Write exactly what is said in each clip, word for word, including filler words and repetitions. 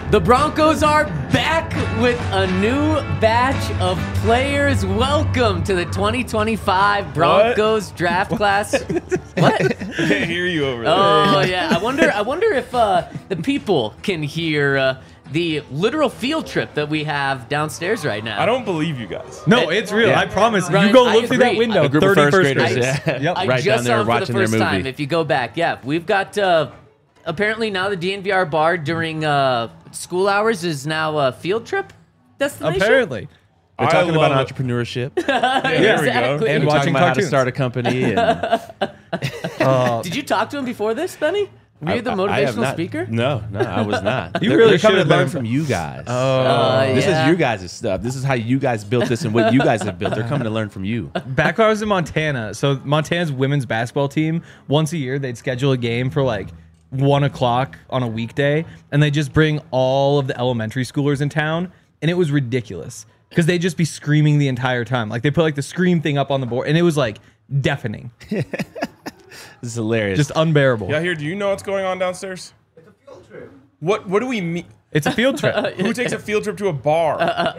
The Broncos are back with a new batch of players. Welcome to the twenty twenty-five Broncos what? draft class. What? I can't hear you over there. Oh yeah, I wonder. I wonder if uh, the people can hear uh, the literal field trip that we have downstairs right now. I don't believe you guys. No, it's real. Yeah. I promise. Ryan, you go I look through that agree. window. A group of thirty first first graders, graders. yeah. Yep. I Right just down there saw him for watching the their first time. movie. If you go back, yeah, we've got uh, apparently now the D N V R bar during uh, school hours is now a field trip destination. Apparently. We're I talking about love it. entrepreneurship. Yeah, there we Exactly. go. And We're watching talking about how to cartoons. start a company. And Uh, Did you talk to him before this, Benny? Were you the I- I have motivational not- speaker? No, no, I was not. You They're- really they're coming should've to learn been. from you guys. Uh, This yeah. is your guys' stuff. This is how you guys built this and what you guys have built. They're coming to learn from you. back when I was in Montana, so Montana's women's basketball team, once a year they'd schedule a game for like one o'clock on a weekday, and they just bring all of the elementary schoolers in town, and it was ridiculous because they'd just be screaming the entire time. Like they put like the scream thing up on the board, and it was like deafening, This is hilarious. just unbearable. Yeah, here. Do you know what's going on downstairs? It's a field trip. What? What do we mean? It's a field trip. Who takes a field trip to a bar?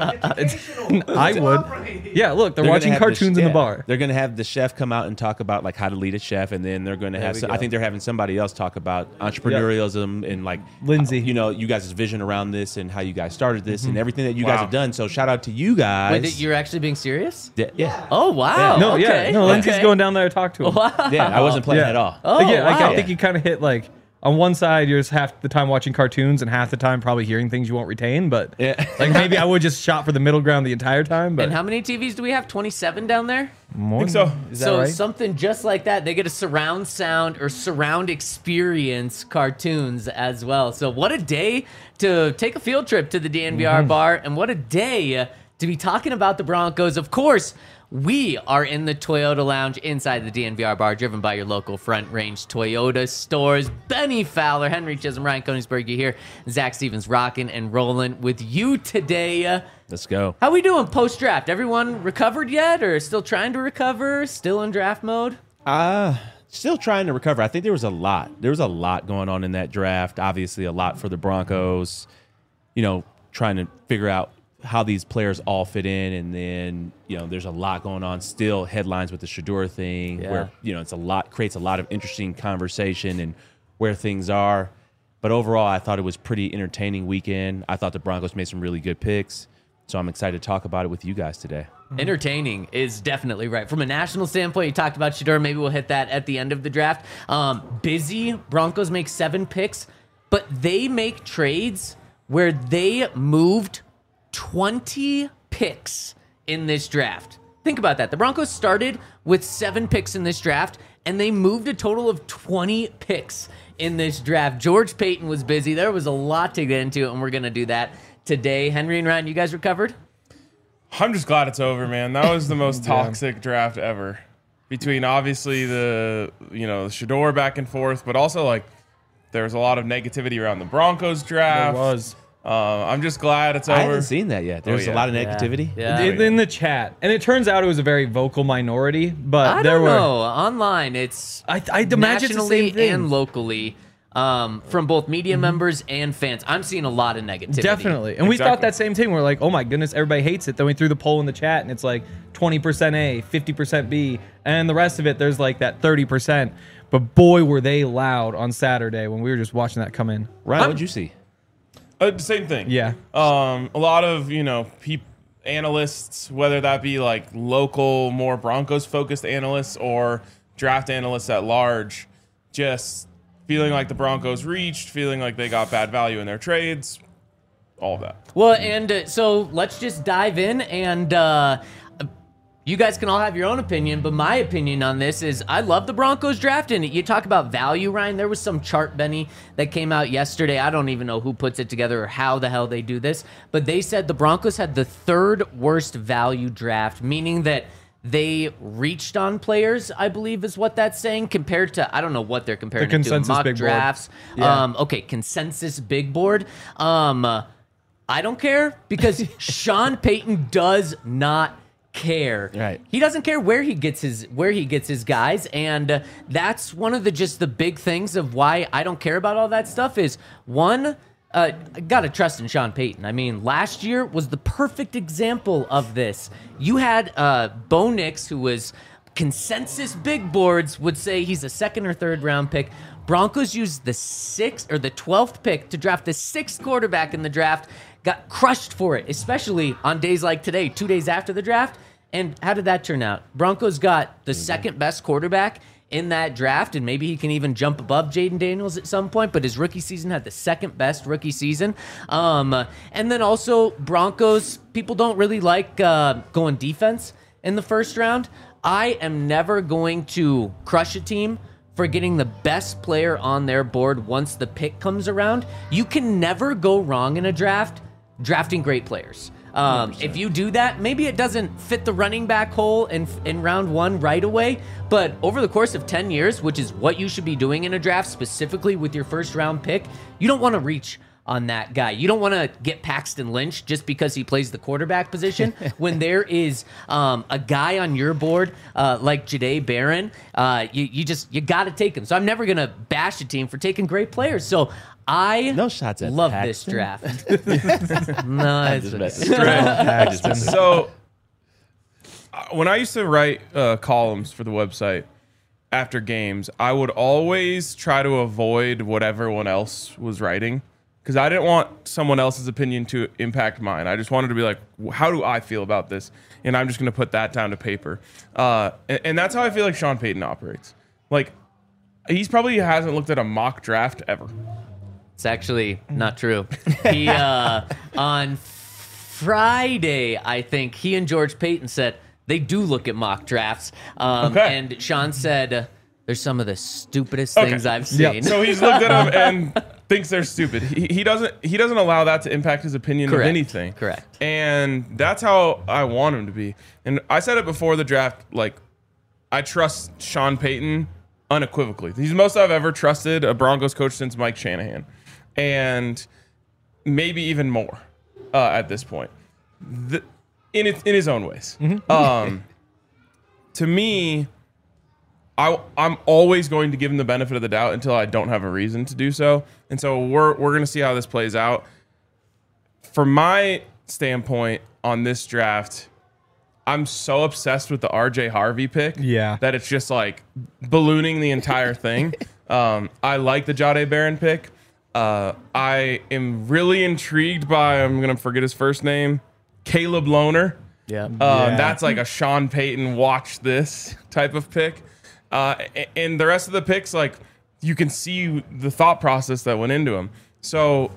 I would. Yeah, look, they're, They're gonna watching have cartoons the, in yeah, the bar. They're going to have the chef come out and talk about like how to lead a chef, and then they're going to have. we Some, go. I think they're having somebody else talk about entrepreneurialism and like Lindsay. You know, you guys' vision around this and how you guys started this and everything that you Wow. guys have done. So shout out to you guys. Wait, you're actually being serious? yeah, yeah, Oh wow. No, okay. yeah, no. Lindsay's okay. going down there to talk to him. Wow. yeah. I wasn't playing Yeah. at all. Oh, Like, yeah, like, wow. I think you kind of hit like on one side you're just half the time watching cartoons and half the time probably hearing things you won't retain. But Yeah. like maybe I would just shot for the middle ground the entire time. But And how many T Vs do we have? twenty-seven down there? more I think so. than- Is that So right? something just like that. They get a surround sound or surround experience cartoons as well. So what a day to take a field trip to the D N V R Mm-hmm. bar, and what a day to be talking about the Broncos. Of course, we are in the Toyota Lounge inside the D N V R bar, driven by your local Front Range Toyota stores. Benny Fowler, Henry Chisholm, Ryan Koenigsberg here. Zach Stevens rocking and rolling with you today. Let's go. How we doing post-draft? Everyone recovered yet, or still trying to recover? Still in draft mode? Uh, still trying to recover. I think there was a lot. There was a lot going on in that draft. Obviously, a lot for the Broncos. You know, trying to figure out how these players all fit in, and then you know, there's a lot going on. Still, headlines with the Shador thing, Yeah. where you know it's a lot creates a lot of interesting conversation and where things are. But overall, I thought it was pretty entertaining weekend. I thought the Broncos made some really good picks, so I'm excited to talk about it with you guys today. Entertaining is definitely right. From a national standpoint, you talked about Shador. Maybe we'll hit that at the end of the draft. Um, busy. Broncos make seven picks, but they make trades where they moved twenty picks in this draft. Think about that. The Broncos started with seven picks in this draft, and they moved a total of twenty picks in this draft. George Payton was busy. There was a lot to get into, and we're going to do that today. Henry and Ryan, you guys recovered? I'm just glad it's over, man. That was the most toxic draft ever. Between obviously the you know the Shador back and forth, but also like there was a lot of negativity around the Broncos draft. There was. Uh, I'm just glad it's I over. haven't seen that yet. There's yeah. a lot of negativity. Yeah. in, in the chat, and it turns out it was a very vocal minority. But I there don't were. know. Online, it's I I'd imagine it's the nationally same thing. and locally um, from both media members and fans. I'm seeing a lot of negativity. Definitely. And we Exactly. thought that same thing. We're like, oh my goodness, everybody hates it. Then we threw the poll in the chat and it's like twenty percent A, fifty percent B, and the rest of it, there's like that thirty percent. But boy, were they loud on Saturday when we were just watching that come in. Ryan, I'm- what'd you see? Uh, same thing. Yeah. Um, a lot of you know peop- analysts, whether that be like local, more Broncos focused analysts or draft analysts at large, just feeling like the Broncos reached, feeling like they got bad value in their trades, all of that. Well, and uh, so let's just dive in, and uh, you guys can all have your own opinion, but my opinion on this is I love the Broncos draft, and you talk about value, Ryan. There was some chart, Benny, that came out yesterday. I don't even know who puts it together or how the hell they do this, but they said the Broncos had the third worst value draft, meaning that they reached on players, I believe is what that's saying, compared to, I don't know what they're comparing The it to, consensus mock big board. drafts. Yeah. Um, okay, consensus big board. Um, uh, I don't care because Sean Payton does not care. Right. He doesn't care where he gets his where he gets his guys, and uh, that's one of the just the big things of why I don't care about all that stuff is one, uh, I gotta trust in Sean Payton. I mean, last year was the perfect example of this. You had uh, Bo Nix, who was consensus big boards would say he's a second or third round pick. Broncos used the sixth or the twelfth pick to draft the sixth quarterback in the draft. Got crushed for it, especially on days like today, two days after the draft. And how did that turn out? Broncos got the second best quarterback in that draft, and maybe he can even jump above Jaden Daniels at some point, but his rookie season had the second best rookie season. Um, and then also Broncos, people don't really like uh, going defense in the first round. I am never going to crush a team for getting the best player on their board once the pick comes around. You can never go wrong in a draft drafting great players. Um, if you do that, maybe it doesn't fit the running back hole in in round one right away, but over the course of ten years, which is what you should be doing in a draft, specifically with your first round pick, you don't want to reach on that guy. You don't want to get Paxton Lynch just because he plays the quarterback position when there is um, a guy on your board uh, like Jahdae Barron. Uh, you, you just, you got to take him. So I'm never going to bash a team for taking great players. So I No shots at love Paxton. this draft. No, it's Just okay. messing. I just messing. So uh, when I used to write uh, columns for the website after games, I would always try to avoid what everyone else was writing because I didn't want someone else's opinion to impact mine. I just wanted to be like, how do I feel about this? And I'm just going to put that down to paper. Uh, and, and that's how I feel like Sean Payton operates. Like, he's probably hasn't looked at a mock draft ever. It's actually not true. He uh, on Friday, I think he and George Payton said they do look at mock drafts. Um, Okay. And Sean said uh, there's some of the stupidest Okay. things I've Yeah. seen. So he's looked at them and thinks they're stupid. He, he doesn't. He doesn't allow that to impact his opinion Correct. of anything. Correct. And that's how I want him to be. And I said it before the draft. Like, I trust Sean Payton unequivocally. He's the most I've ever trusted a Broncos coach since Mike Shanahan, and maybe even more uh, at this point. The, in it, in his own ways. Um, to me, I, I'm always going to give him the benefit of the doubt until I don't have a reason to do so. And so we're we're going to see how this plays out. From my standpoint on this draft, I'm so obsessed with the R J Harvey pick Yeah. that it's just like ballooning the entire thing. um, I like the Jahdae Barron pick. Uh, I am really intrigued by, I'm going to forget his first name, Caleb Lohner. Yeah. Uh, Yeah. That's like a Sean Payton watch this type of pick. Uh, a- and the rest of the picks, like, you can see the thought process that went into them. So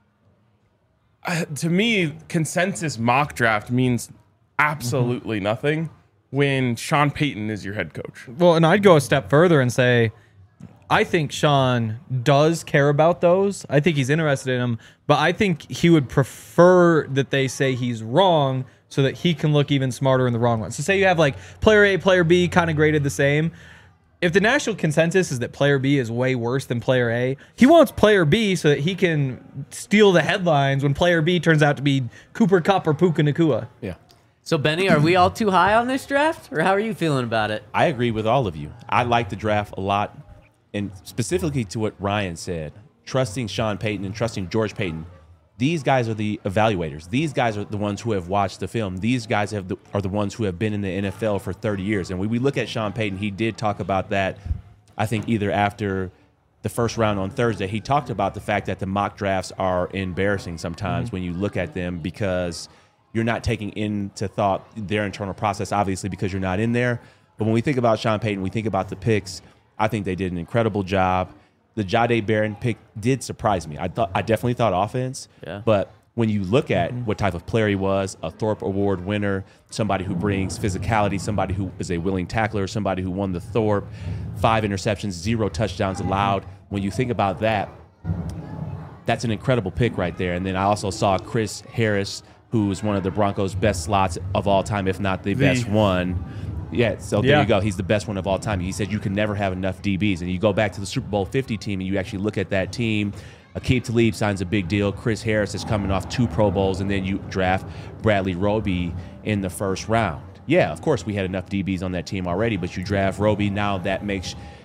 uh, to me, consensus mock draft means absolutely nothing when Sean Payton is your head coach. Well, and I'd go a step further and say, I think Sean does care about those. I think he's interested in them, but I think he would prefer that they say he's wrong so that he can look even smarter in the wrong one. So say you have like player A, player B kind of graded the same. If the national consensus is that player B is way worse than player A, he wants player B so that he can steal the headlines when player B turns out to be Cooper Kupp or Puka Nacua. Yeah. So, Benny, are we all too high on this draft, or how are you feeling about it? I agree with all of you. I like the draft a lot, and specifically to what Ryan said, trusting Sean Payton and trusting George Payton. These guys are the evaluators. These guys are the ones who have watched the film. These guys have the, are the ones who have been in the N F L for thirty years. And when we look at Sean Payton, he did talk about that, I think, either after the first round on Thursday. He talked about the fact that the mock drafts are embarrassing sometimes when you look at them because you're not taking into thought their internal process, obviously, because you're not in there. But when we think about Sean Payton, we think about the picks. I think they did an incredible job. The Jahdae Barron pick did surprise me. I thought I definitely thought offense. Yeah. But when you look at what type of player he was, a Thorpe Award winner, somebody who brings physicality, somebody who is a willing tackler, somebody who won the Thorpe, five interceptions, zero touchdowns allowed. When you think about that, that's an incredible pick right there. And then I also saw Chris Harris, who is one of the Broncos' best slots of all time, if not the, The- best one. Yeah, so there Yeah. you go. He's the best one of all time. He said you can never have enough D Bs. And you go back to the Super Bowl fifty team and you actually look at that team. Aqib Talib signs a big deal. Chris Harris is coming off two Pro Bowls, and then you draft Bradley Roby in the first round. Yeah, of course we had enough D Bs on that team already, but you draft Roby. Now that makes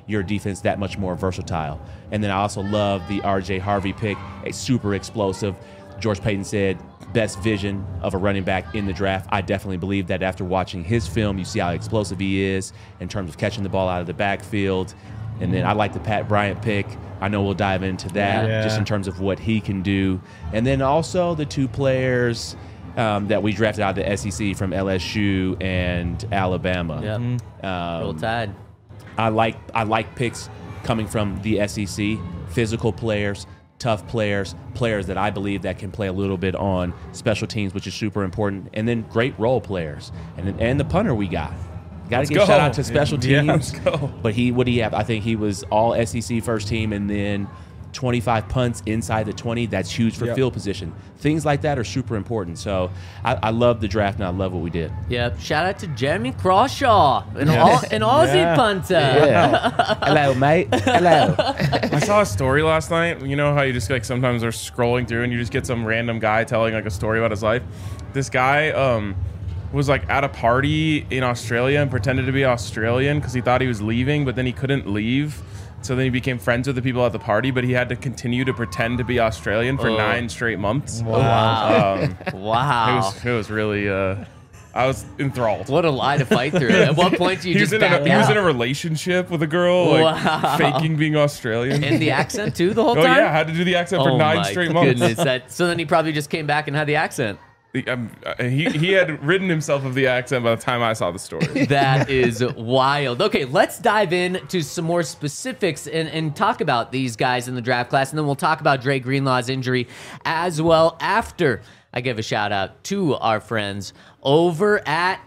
your defense that much more versatile. And then I also love the R J Harvey pick, a super explosive. George Payton said, best vision of a running back in the draft. I definitely believe that after watching his film, you see how explosive he is in terms of catching the ball out of the backfield. And then I like the Pat Bryant pick. I know we'll dive into that Yeah. just in terms of what he can do. And then also the two players um, that we drafted out of the S E C from L S U and Alabama. Yep. Um, Roll Tide. I like I like picks coming from the S E C, physical players, tough players, players that I believe that can play a little bit on special teams, which is super important, and then great role players, and and the punter we got. Got to give go. a shout out to special Yeah, teams. let's go. But he, what do you have? I think he was all S E C first team, and then twenty-five punts inside the twenty. That's huge for Yep. field position. Things like that are super important. So I, I love the draft, and I love what we did. Yep. Shout out to Jeremy Crawshaw, an, all, an Aussie Yeah. punter. Yeah. Hello, mate. Hello. I saw a story last night. You know how you just like sometimes are scrolling through and you just get some random guy telling like a story about his life. This guy um, was like at a party in Australia and pretended to be Australian because he thought he was leaving, but then he couldn't leave. So then he became friends with the people at the party, but he had to continue to pretend to be Australian for Oh. nine straight months. Wow. Um, it Wow. was it was really. Uh, I was enthralled. What a lie to fight through. At what point do you he was just in back a, he was out? in a relationship with a girl, like Wow. faking being Australian. And the accent too the whole oh time? yeah, had to do the accent for Oh nine my straight months. goodness. That, so then he probably just came back and had the accent. He, um, uh, he he had ridden himself of the accent by the time I saw the story. That is wild. Okay, let's dive into some more specifics and, and talk about these guys in the draft class, and then we'll talk about Dre Greenlaw's injury as well after I give a shout out to our friends over at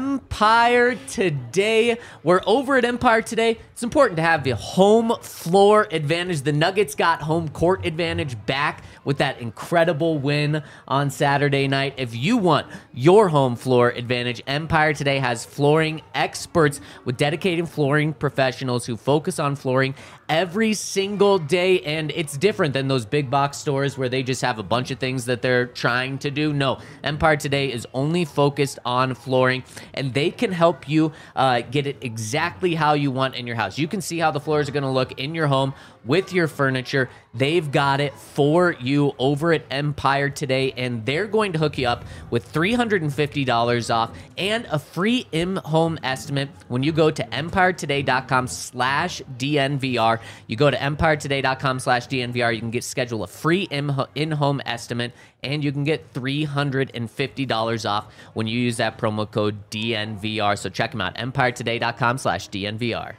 Empire Today. We're over at Empire Today. It's important to have the home floor advantage. The Nuggets got home court advantage back with that incredible win on Saturday night. If you want your home floor advantage, Empire Today has flooring experts with dedicated flooring professionals who focus on flooring every single day, and it's different than those big box stores where they just have a bunch of things that they're trying to do. No, Empire Today is only focused on flooring, and they can help you uh, get it exactly how you want in your house. You can see how the floors are going to look in your home with your furniture. They've got it for you over at Empire Today, and they're going to hook you up with three hundred fifty dollars off and a free in-home estimate when you go to empiretoday.com slash DNVR. You go to empiretoday.com slash DNVR. You can get schedule a free in-home estimate, and you can get three hundred fifty dollars off when you use that promo code D N V R. So check them out, empiretoday.com slash DNVR.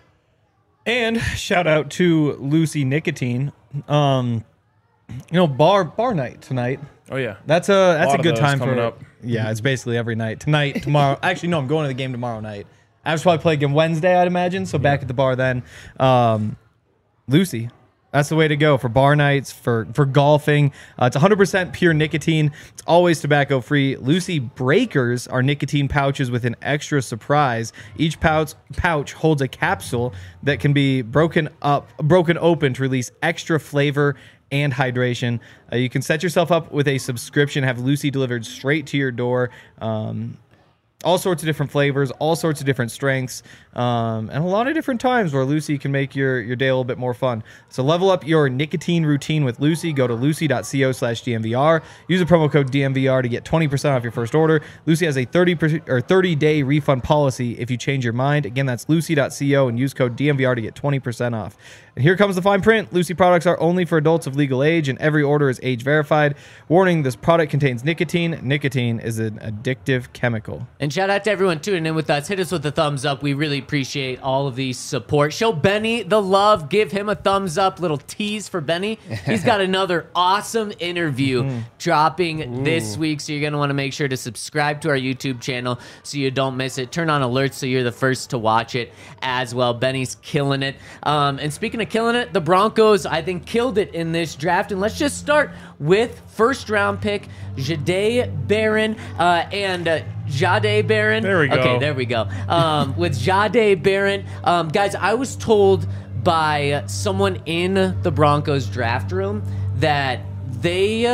And shout out to Lucy Nicotine. Um, you know, bar bar night tonight. Oh yeah, That's a that's lot a, of good those time coming for. up. Yeah, it's basically every night. Tonight, tomorrow. Actually, no, I'm going to the game tomorrow night. I was probably play again Wednesday, I'd imagine. So back at the bar then. Um, Lucy. That's the way to go for bar nights, for, for golfing. Uh, it's one hundred percent pure nicotine. It's always tobacco free. Lucy Breakers are nicotine pouches with an extra surprise. Each pouch pouch holds a capsule that can be broken up, broken open to release extra flavor and hydration. Uh, you can set yourself up with a subscription, have Lucy delivered straight to your door. Um, all sorts of different flavors, all sorts of different strengths, um, and a lot of different times where Lucy can make your, your day a little bit more fun. So level up your nicotine routine with Lucy. Go to lucy.co slash DNVR. Use the promo code D N V R to get twenty percent off your first order. Lucy has a thirty or thirty-day refund policy if you change your mind. Again, that's lucy.co and use code D N V R to get twenty percent off. And here comes the fine print. Lucy products are only for adults of legal age, and every order is age verified. Warning, this product contains nicotine. Nicotine is an addictive chemical. And shout out to everyone tuning in with us. Hit us with a thumbs up. We really appreciate all of the support. Show Benny the love. Give him a thumbs up. Little tease for Benny. He's got another awesome interview dropping this week, so you're going to want to make sure to subscribe to our YouTube channel so you don't miss it. Turn on alerts so you're the first to watch it as well. Benny's killing it. Um, and speaking of killing it, the Broncos, I think, killed it in this draft. And let's just start with first round pick Jahdae Barron uh, and uh, Jahdae Barron. There we go. Okay, there we go. Um, with Jahdae Barron, um, guys, I was told by someone in the Broncos draft room that they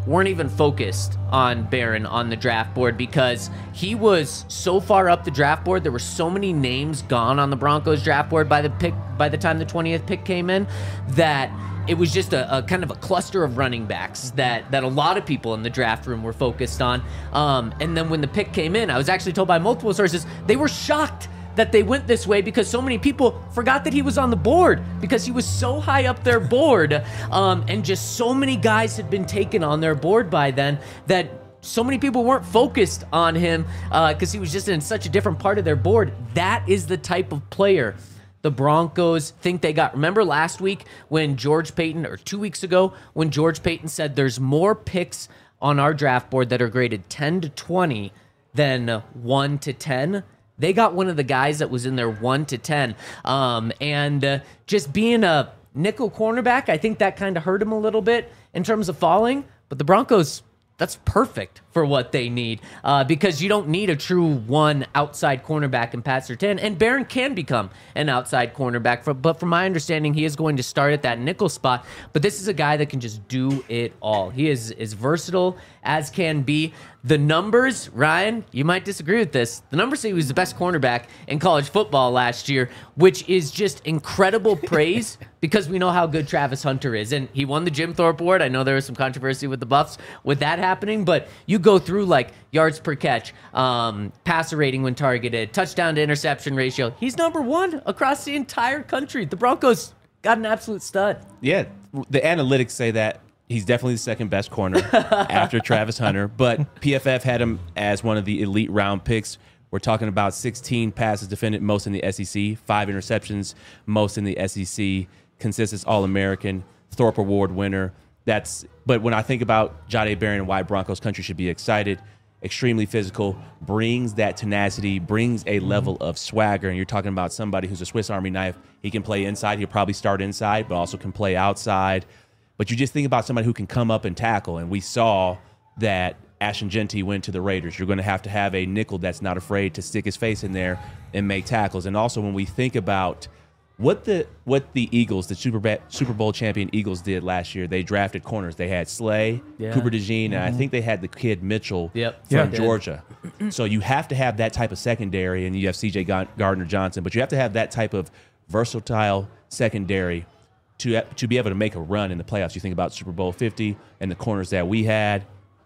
weren't even focused on Barron on the draft board because he was so far up the draft board. There were so many names gone on the Broncos draft board by the pick by the time the twentieth pick came in that it was just a, a kind of a cluster of running backs that that a lot of people in the draft room were focused on. Um, and then when the pick came in, I was actually told by multiple sources they were shocked that they went this way because so many people forgot that he was on the board because he was so high up their board, um, and just so many guys had been taken on their board by then that so many people weren't focused on him because uh, he was just in such a different part of their board. That is the type of player the Broncos think they got. Remember last week when George Paton, or two weeks ago, when George Paton said there's more picks on our draft board that are graded ten to twenty than one to ten? They got one of the guys that was in there one to ten. Um, and uh, just being a nickel cornerback, I think that kind of hurt him a little bit in terms of falling. But the Broncos, that's perfect for what they need uh, because you don't need a true one outside cornerback in Pat Surtain. And Barron can become an outside cornerback. For, but from my understanding, he is going to start at that nickel spot. But this is a guy that can just do it all. He is as versatile as can be. The numbers, Ryan, you might disagree with this. The numbers say he was the best cornerback in college football last year, which is just incredible praise because we know how good Travis Hunter is. And he won the Jim Thorpe Award. I know there was some controversy with the Buffs with that happening, but you go through like yards per catch, um, passer rating when targeted, touchdown to interception ratio. He's number one across the entire country. The Broncos got an absolute stud. Yeah, the analytics say that he's definitely the second best corner after Travis Hunter, but P F F had him as one of the elite round picks. We're talking about sixteen passes defended, most in the S E C, five interceptions, most in the S E C, consensus All-American, Thorpe Award winner. That's. But when I think about Jahdae Barron and why Broncos country should be excited, extremely physical, brings that tenacity, brings a level of swagger, and you're talking about somebody who's a Swiss Army knife. He can play inside. He'll probably start inside, but also can play outside. But you just think about somebody who can come up and tackle, and we saw that Ashton Jeanty went to the Raiders. You're going to have to have a nickel that's not afraid to stick his face in there and make tackles. And also when we think about what the what the Eagles, the Super, ba- Super Bowl champion Eagles did last year, they drafted corners. They had Slay, Yeah. Cooper DeJean, and Mm-hmm. I think they had the kid Mitchell Yep. from Yeah. Georgia. So you have to have that type of secondary, and you have C J Gardner-Johnson, but you have to have that type of versatile secondary to to be able to make a run in the playoffs. You think about Super Bowl fifty and the corners that we had.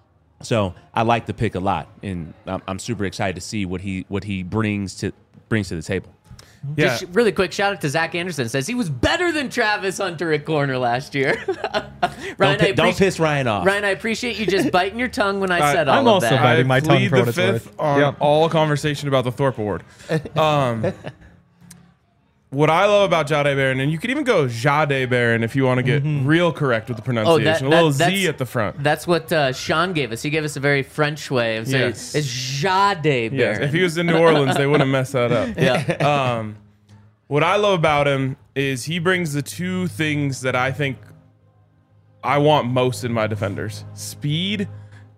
So I like the pick a lot, and I'm, I'm super excited to see what he what he brings to brings to the table. Yeah. Just really quick shout out to Zach Anderson. Says he was better than Travis Hunter at corner last year. Ryan, Don't, I pi- don't appreciate- piss Ryan off. Ryan, I appreciate you just biting your tongue when I I- said all I'm of also that. biting I my tongue plead for the what it's fifth worth. on Yep. all conversation about the Thorpe Award. Um, what I love about Jahdae Barron, and you could even go Jahdae Barron if you want to get real correct with the Oh, that, pronunciation. a little that- that's, Z at the front. That's what uh, Sean gave us. He gave us a very French way of saying Yes. it's Jahdae Barron. Yes, if he was in New Orleans, they wouldn't mess that up. yeah. Um, what I love about him is he brings the two things that I think I want most in my defenders: speed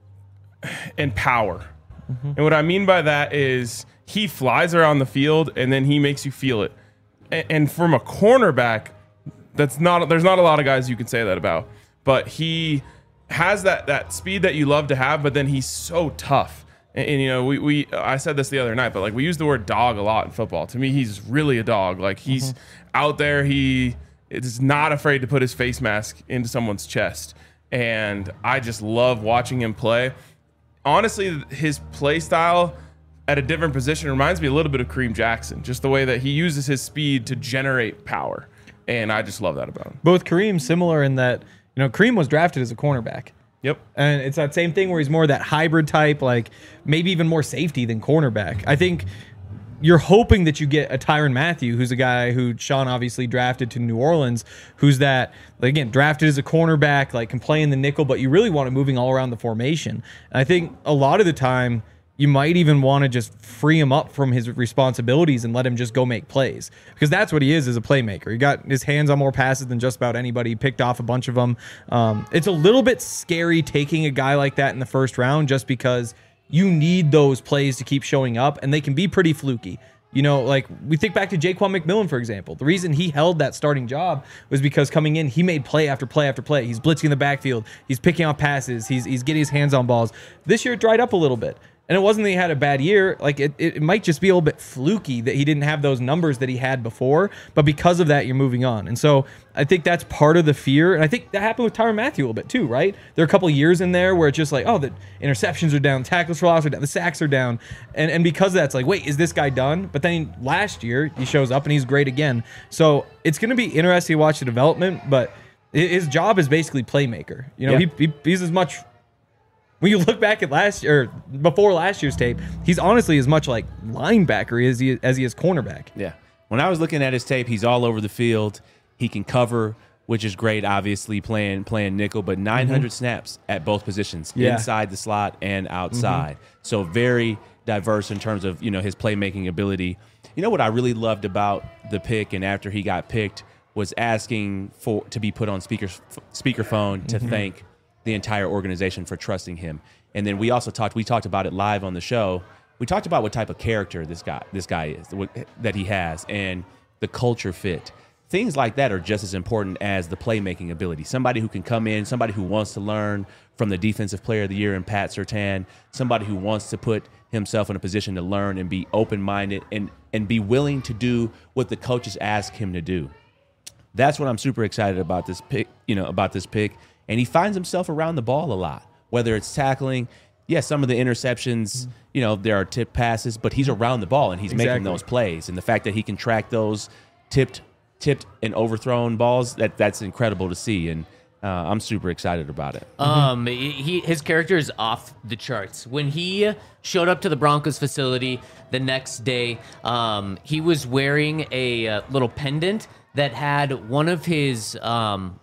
and power. And what I mean by that is he flies around the field and then he makes you feel it. A- And from a cornerback, that's not there's not a lot of guys you can say that about. But he has that that speed that you love to have, but then he's so tough. And, and, you know, we, we I said this the other night, but like we use the word dog a lot in football. To me, he's really a dog. Like he's out there, he is not afraid to put his face mask into someone's chest. And I just love watching him play. Honestly, his play style at a different position reminds me a little bit of Kareem Jackson, just the way that he uses his speed to generate power. And I just love that about him. Both Kareem similar in that, you know, Kareem was drafted as a cornerback. Yep. And it's that same thing where he's more that hybrid type, like maybe even more safety than cornerback. I think you're hoping that you get a Tyrann Mathieu, who's a guy who Sean obviously drafted to New Orleans, who's that, like, again, drafted as a cornerback, like can play in the nickel, but you really want him moving all around the formation. And I think a lot of the time, you might even want to just free him up from his responsibilities and let him just go make plays, because that's what he is as a playmaker. He got his hands on more passes than just about anybody. He picked off a bunch of them. Um, it's a little bit scary taking a guy like that in the first round just because you need those plays to keep showing up, and they can be pretty fluky. You know, like we think back to Jaquan McMillan, for example. The reason he held that starting job was because coming in, he made play after play after play. He's blitzing the backfield. He's picking off passes. He's he's getting his hands on balls. This year it dried up a little bit. And it wasn't that he had a bad year. Like it, it might just be a little bit fluky that he didn't have those numbers that he had before. But because of that, you're moving on. And so I think that's part of the fear. And I think that happened with Tyrann Mathieu a little bit too, right? There are a couple of years in there where it's just like, oh, the interceptions are down, tackles for loss are down, the sacks are down. And and because of that, it's like, wait, is this guy done? But then last year he shows up and he's great again. So it's going to be interesting to watch the development. But his job is basically playmaker. You know, Yeah. he, he he's as much. When you look back at last year, or before last year's tape, he's honestly as much like linebacker as he as he is cornerback. Yeah. When I was looking at his tape, he's all over the field. He can cover, which is great, obviously, playing playing nickel, but nine hundred mm-hmm. snaps at both positions, yeah. inside the slot and outside. Mm-hmm. So very diverse in terms of, you know, his playmaking ability. You know what I really loved about the pick and after he got picked was asking for to be put on speaker speakerphone to mm-hmm. thank the entire organization for trusting him. And then we also talked we talked about it live on the show. We talked about what type of character this guy this guy is, what, that he has, and the culture fit. Things like that are just as important as the playmaking ability. Somebody who can come in, somebody who wants to learn from the defensive player of the year in Pat Surtain, somebody who wants to put himself in a position to learn and be open-minded and and be willing to do what the coaches ask him to do. That's what I'm super excited about this pick, you know, about this pick. And he finds himself around the ball a lot, whether it's tackling. Yes, some of the interceptions, you know, there are tipped passes, but he's around the ball and he's exactly. making those plays. And the fact that he can track those tipped, tipped and overthrown balls, that that's incredible to see. And uh, I'm super excited about it. Um, he his character is off the charts. When he showed up to the Broncos facility the next day, um, he was wearing a uh, little pendant that had one of his um.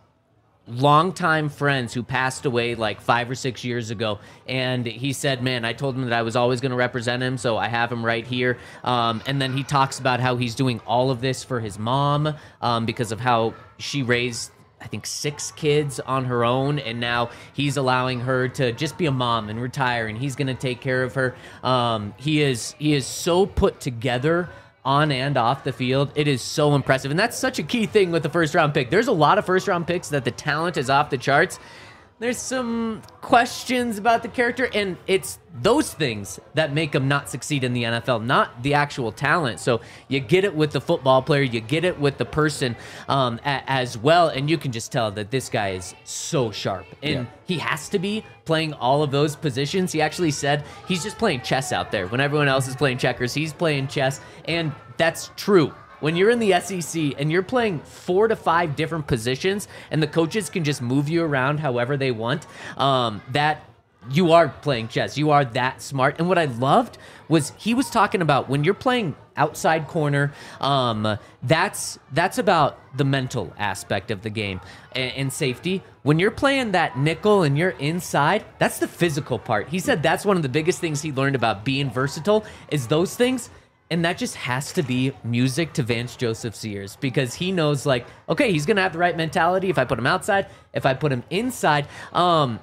longtime friends who passed away like five or six years ago, and he said, man, I told him that I was always going to represent him, so I have him right here. Um, and then he talks about how he's doing all of this for his mom um, because of how she raised, I think, six kids on her own, and now he's allowing her to just be a mom and retire, and he's going to take care of her. Um, he is he is so put together on and off the field. It is so impressive. And that's such a key thing with the first round pick. There's a lot of first round picks that the talent is off the charts. There's some questions about the character, and it's those things that make them not succeed in the N F L, not the actual talent. So you get it with the football player, you get it with the person um, a- as well, and you can just tell that this guy is so sharp. And yeah. he has to be playing all of those positions. He actually said he's just playing chess out there. When everyone else is playing checkers, he's playing chess, and that's true. When you're in the S E C and you're playing four to five different positions and the coaches can just move you around however they want, um, that you are playing chess. You are that smart. And what I loved was he was talking about when you're playing outside corner, um, that's that's about the mental aspect of the game and, and safety. When you're playing that nickel and you're inside, that's the physical part. He said that's one of the biggest things he learned about being versatile is those things. And that just has to be music to Vance Joseph's ears because he knows, like, okay, he's going to have the right mentality if I put him outside, if I put him inside. Um,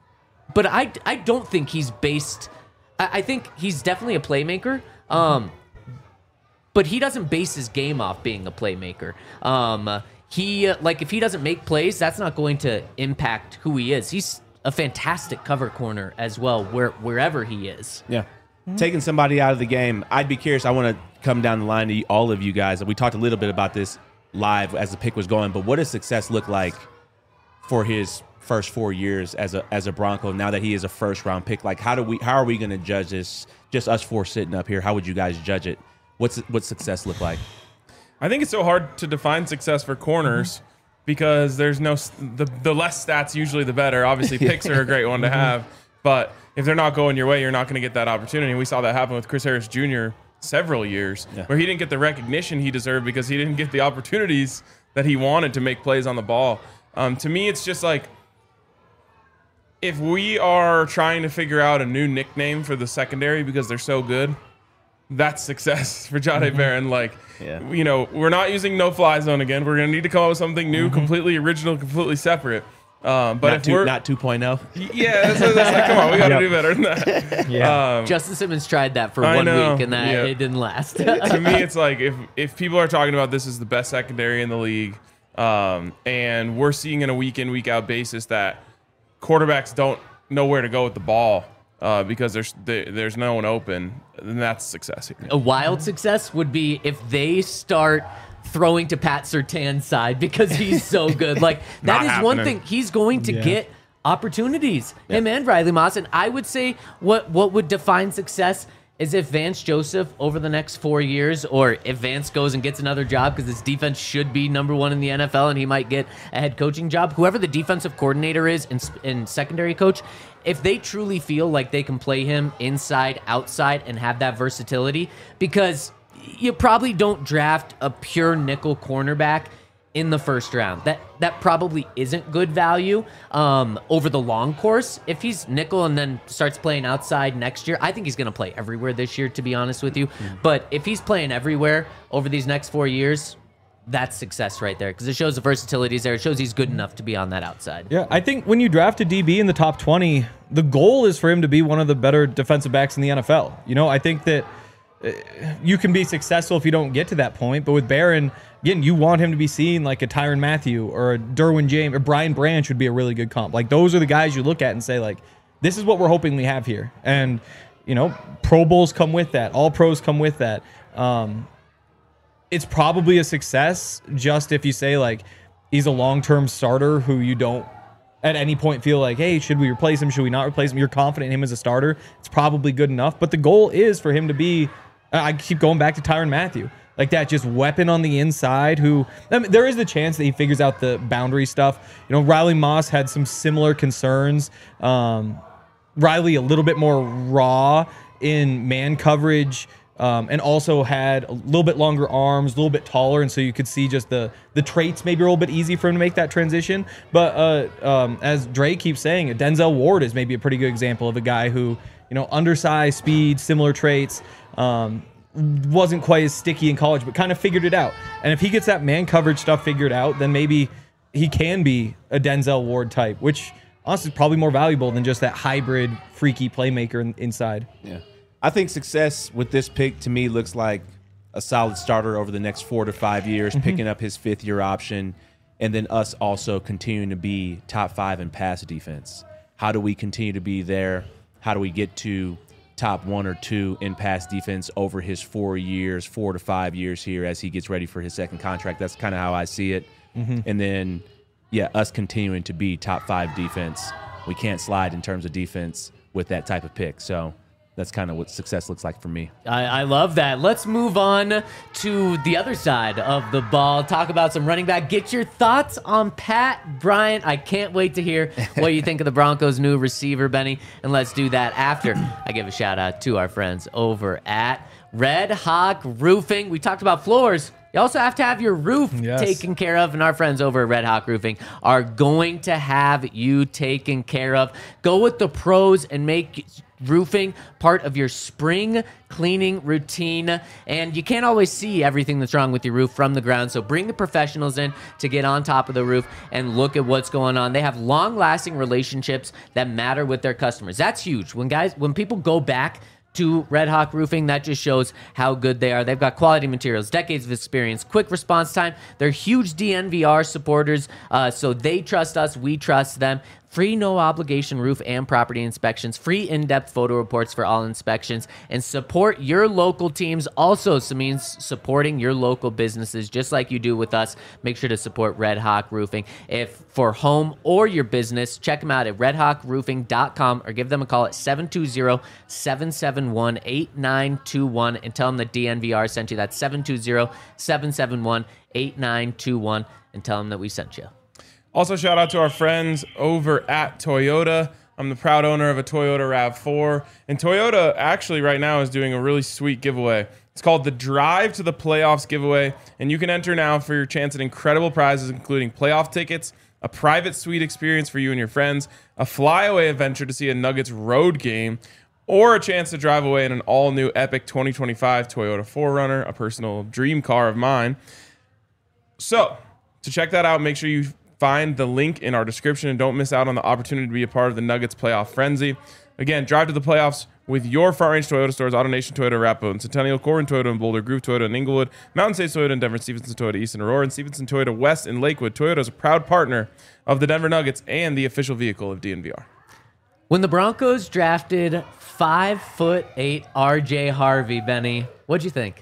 but I, I don't think he's based – I think he's definitely a playmaker, um, but he doesn't base his game off being a playmaker. Um, he like, if he doesn't make plays, that's not going to impact who he is. He's a fantastic cover corner as well, where wherever he is. Yeah. Taking somebody out of the game, I'd be curious. I want to come down the line to all of you guys. We talked a little bit about this live as the pick was going, but what does success look like for his first four years as a as a Bronco now that he is a first round pick? Like, how do we how are we going to judge this? Just us four sitting up here. How would you guys judge it? What's what's success look like? I think it's so hard to define success for corners because there's no the the less stats usually the better. Obviously, picks are a great one to have, but if they're not going your way, you're not going to get that opportunity. We saw that happen with Chris Harris Junior several years yeah. where he didn't get the recognition he deserved because he didn't get the opportunities that he wanted to make plays on the ball. Um, to me, it's just like if we are trying to figure out a new nickname for the secondary because they're so good, that's success for Jahdae mm-hmm. Barron. Like, yeah. you know, we're not using no-fly zone again. We're going to need to come up with something new, mm-hmm. completely original, completely separate. Um, but not if two, we're not two point oh. yeah, that's, that's like, come on, we got to Yep. do better than that. Yeah. Um, Justin Simmons tried that for I one know, week, and that yeah. it didn't last. to me, it's like if if people are talking about this is the best secondary in the league, um, and we're seeing in a week in week out basis that quarterbacks don't know where to go with the ball uh, because there's there, there's no one open, then that's success here. A wild success would be if they start throwing to Pat Surtain's side because he's so good. Like that Not is one happening. thing. He's going to Yeah. get opportunities. Him and Riley Moss. And I would say what what would define success is if Vance Joseph over the next four years, or if Vance goes and gets another job because his defense should be number one in the N F L and he might get a head coaching job. Whoever the defensive coordinator is and, and secondary coach, if they truly feel like they can play him inside, outside, and have that versatility, because you probably don't draft a pure nickel cornerback in the first round. That that probably isn't good value um, over the long course. If he's nickel and then starts playing outside next year, I think he's going to play everywhere this year, to be honest with you. Mm-hmm. But if he's playing everywhere over these next four years, that's success right there, because it shows the versatility is there. It shows he's good enough to be on that outside. Yeah, I think when you draft a D B in the top twenty, the goal is for him to be one of the better defensive backs in the N F L. You know, I think that uh, you can be successful if you don't get to that point. But with Barron, again, you want him to be seen like a Tyrann Mathieu or a Derwin James or Brian Branch would be a really good comp. Like those are the guys you look at and say, like, this is what we're hoping we have here. And, you know, Pro Bowls come with that. All pros come with that. Um, it's probably a success just if you say, like, he's a long-term starter who you don't at any point feel like, hey, should we replace him? Should we not replace him? You're confident in him as a starter. It's probably good enough. But the goal is for him to be, I keep going back to Tyrann Mathieu, like that just weapon on the inside who, I mean, there is the chance that he figures out the boundary stuff. You know, Riley Moss had some similar concerns. Um, Riley a little bit more raw in man coverage, um, and also had a little bit longer arms, a little bit taller, and so you could see just the the traits maybe a little bit easy for him to make that transition. But uh, um, as Dre keeps saying, Denzel Ward is maybe a pretty good example of a guy who, you know, undersized, speed, similar traits, um, wasn't quite as sticky in college, but kind of figured it out. And if he gets that man coverage stuff figured out, then maybe he can be a Denzel Ward type, which honestly is probably more valuable than just that hybrid, freaky playmaker in, inside. Yeah. I think success with this pick to me looks like a solid starter over the next four to five years, mm-hmm. picking up his fifth year option, and then us also continuing to be top five in pass defense. How do we continue to be there? How do we get to top one or two in pass defense over his four years, four to five years here as he gets ready for his second contract? That's kind of how I see it. Mm-hmm. And then, yeah, us continuing to be top five defense. We can't slide in terms of defense with that type of pick. So that's kind of what success looks like for me. I, I love that. Let's move on to the other side of the ball. Talk about some running back. Get your thoughts on Pat Bryant. I can't wait to hear what you think of the Broncos' new receiver, Benny. And let's do that after I give a shout out to our friends over at Red Hawk Roofing. We talked about floors. You also have to have your roof Yes. taken care of, and our friends over at Red Hawk Roofing are going to have you taken care of. Go with the pros and make roofing part of your spring cleaning routine. And you can't always see everything that's wrong with your roof from the ground, so bring the professionals in to get on top of the roof and look at what's going on. They have long-lasting relationships that matter with their customers. That's huge. When guys, when people go back to Red Hawk Roofing, that just shows how good they are. They've got quality materials, decades of experience, quick response time. They're huge D N V R supporters, uh, so they trust us, we trust them. Free no-obligation roof and property inspections, free in-depth photo reports for all inspections, and support your local teams also means supporting your local businesses just like you do with us. Make sure to support Red Hawk Roofing. If for home or your business, check them out at red hawk roofing dot com or give them a call at seven two zero, seven seven one, eight nine two one and tell them that D N V R sent you. That's seven two zero, seven seven one, eight nine two one and tell them that we sent you. Also, shout out to our friends over at Toyota. I'm the proud owner of a Toyota RAV four. And Toyota actually right now is doing a really sweet giveaway. It's called the Drive to the Playoffs giveaway. And you can enter now for your chance at incredible prizes, including playoff tickets, a private suite experience for you and your friends, a flyaway adventure to see a Nuggets road game, or a chance to drive away in an all-new epic twenty twenty-five Toyota four runner, a personal dream car of mine. So, to check that out, make sure you Find the link in our description and don't miss out on the opportunity to be a part of the Nuggets playoff frenzy. Again, drive to the playoffs with your Front Range Toyota stores, AutoNation Toyota, Arapahoe and Centennial, Corbin Toyota and Boulder, Groove Toyota and Inglewood, Mountain States Toyota and Denver, Stevenson Toyota East and Aurora, and Stevenson Toyota West in Lakewood. Toyota is a proud partner of the Denver Nuggets and the official vehicle of D N V R. When the Broncos drafted five foot eight R J Harvey, Benny, what'd you think?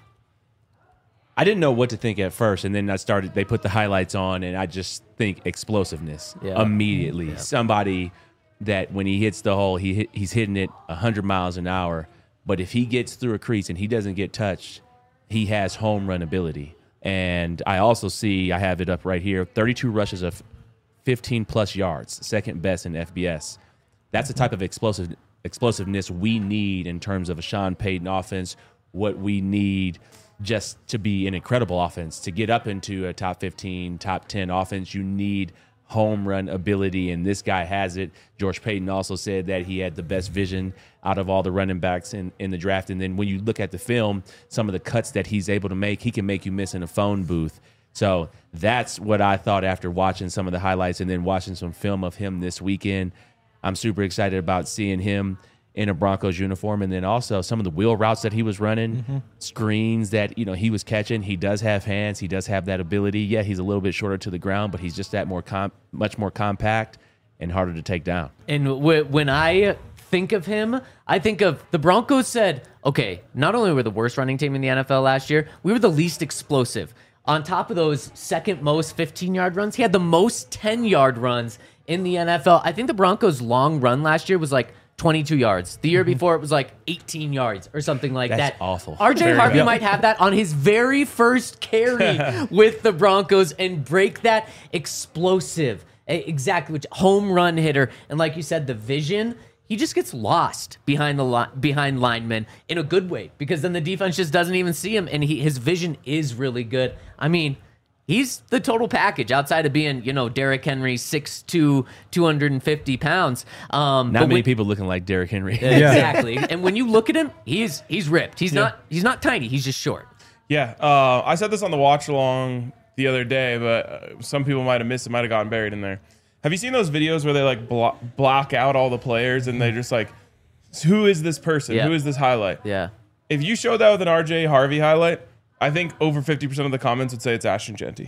I didn't know what to think at first, and then I started. They put the highlights on, and I just think explosiveness Yeah. immediately. Yeah. Somebody that when he hits the hole, he hit, he's hitting it one hundred miles an hour. But if he gets through a crease and he doesn't get touched, he has home run ability. And I also see, I have it up right here, thirty-two rushes of fifteen plus yards, second best in F B S. That's the type of explosive explosiveness we need in terms of a Sean Payton offense. What we need just to be an incredible offense, to get up into a top fifteen, top ten offense, you need home run ability, and this guy has it. George Payton also said that he had the best vision out of all the running backs in, in the draft. And then when you look at the film, some of the cuts that he's able to make, he can make you miss in a phone booth. So that's what I thought after watching some of the highlights and then watching some film of him this weekend. I'm super excited about seeing him in a Broncos uniform, and then also some of the wheel routes that he was running, mm-hmm. screens that you know he was catching. He does have hands. He does have that ability. Yeah, he's a little bit shorter to the ground, but he's just that more com- much more compact and harder to take down. And w- when I think of him, I think of the Broncos said, okay, not only were the worst running team in the N F L last year, we were the least explosive. On top of those second most fifteen-yard runs, he had the most ten-yard runs in the N F L. I think the Broncos' long run last year was like twenty-two yards. The year before, it was like eighteen yards or something like That's that. awful. R J Very Harvey good. might have that on his very first carry with the Broncos and break that explosive, e- exactly, which home run hitter. And like you said, the vision, he just gets lost behind the li- behind linemen in a good way, because then the defense just doesn't even see him, and he, his vision is really good. I mean, he's the total package outside of being, you know, Derrick Henry, six two, two hundred fifty pounds. Um, Not but many when- people looking like Derrick Henry. Exactly. And when you look at him, he's he's ripped. He's not he's not tiny. He's just short. Yeah, uh, I said this on the watch along the other day, but uh, some people might have missed it, might have gotten buried in there. Have you seen those videos where they like blo- block out all the players and they just like, who is this person? Yeah. Who is this highlight? Yeah. If you showed that with an R J Harvey highlight, I think over fifty percent of the comments would say it's Ashton Genty.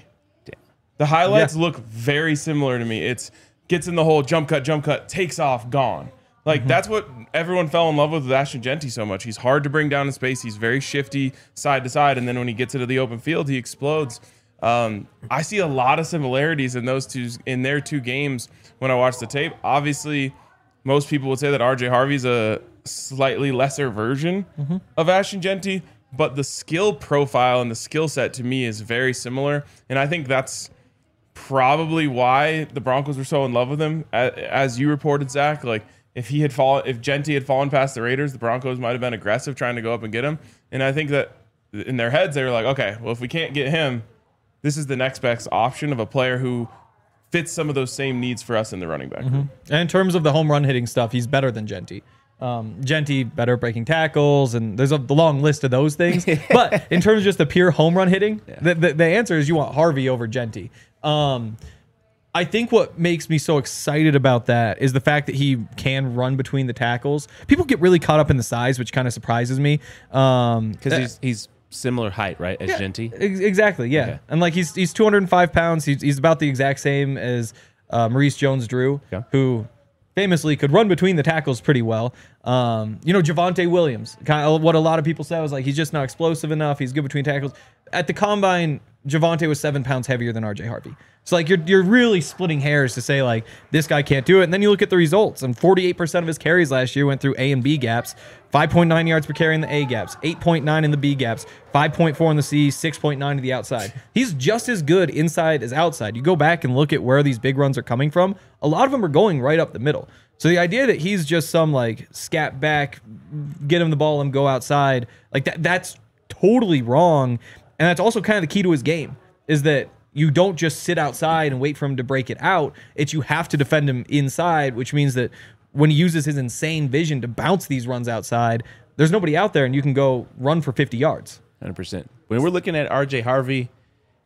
The highlights Yeah. look very similar to me. It's gets in the hole, jump cut, jump cut, takes off, gone. Like, Mm-hmm. that's what everyone fell in love with with Ashton Genty so much. He's hard to bring down in space. He's very shifty side to side. And then when he gets into the open field, he explodes. Um, I see a lot of similarities in those two, in their two games when I watch the tape. Obviously, most people would say that R J Harvey's a slightly lesser version Mm-hmm. of Ashton Genty, but the skill profile and the skill set to me is very similar. And I think that's probably why the Broncos were so in love with him. A- As you reported, Zach, like if he had fallen, if Genty had fallen past the Raiders, the Broncos might have been aggressive trying to go up and get him. And I think that in their heads, they were like, okay, well, if we can't get him, this is the next best option of a player who fits some of those same needs for us in the running back room. And in terms of the home run hitting stuff, he's better than Genty. Um, Genty better at breaking tackles, and there's a the long list of those things. But in terms of just the pure home run hitting, the, the, the answer is you want Harvey over Genty. Um, I think what makes me so excited about that is the fact that he can run between the tackles. People get really caught up in the size, which kind of surprises me. Um, Because uh, he's he's similar height, right, as yeah, Genty? ex- Exactly, yeah. Okay. And like he's he's two hundred five pounds. He's he's about the exact same as uh, Maurice Jones-Drew, Okay. who famously could run between the tackles pretty well. Um, you know, Javonte Williams, kind of what a lot of people say was like he's just not explosive enough. He's good between tackles. At the combine, Javonte was seven pounds heavier than R J Harvey. So like you're you're really splitting hairs to say like this guy can't do it. And then you look at the results, and forty-eight percent of his carries last year went through A and B gaps. five point nine yards per carry in the A gaps, eight point nine in the B gaps, five point four in the C, six point nine to the outside. He's just as good inside as outside. You go back and look at where these big runs are coming from. A lot of them are going right up the middle. So the idea that he's just some like scat back, get him the ball and go outside, like that that's totally wrong. And that's also kind of the key to his game, is that you don't just sit outside and wait for him to break it out. It's you have to defend him inside, which means that when he uses his insane vision to bounce these runs outside, there's nobody out there and you can go run for fifty yards. one hundred percent. When we're looking at R J Harvey,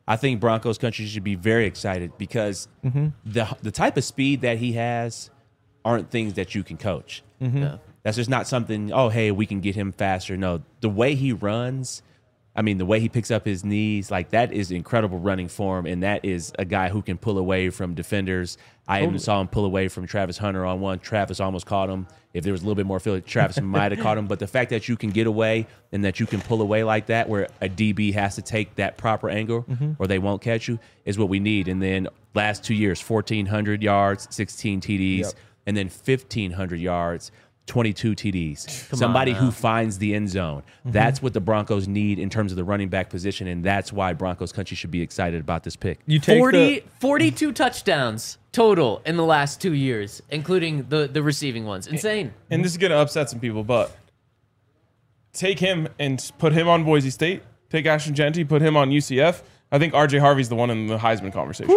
I think Broncos country should be very excited because Mm-hmm. the the type of speed that he has aren't things that you can coach. Mm-hmm. Yeah. That's just not something, oh, hey, we can get him faster. No, the way he runs, I mean, the way he picks up his knees, like that is incredible running form. And that is a guy who can pull away from defenders. I even saw him pull away from Travis Hunter on one. Travis almost caught him. If there was a little bit more field, Travis might have caught him. But the fact that you can get away and that you can pull away like that, where a D B has to take that proper angle or they won't catch you, is what we need. And then last two years, fourteen hundred yards, sixteen T Ds, Yep. and then fifteen hundred yards, twenty-two T Ds. Come Somebody on who now. finds the end zone. That's what the Broncos need in terms of the running back position, and that's why Broncos country should be excited about this pick. You take forty, the, forty-two touchdowns total in the last two years, including the, the receiving ones. Insane. And this is going to upset some people, but take him and put him on Boise State. Take Ashton Genty, put him on U C F. I think R J Harvey's the one in the Heisman conversation.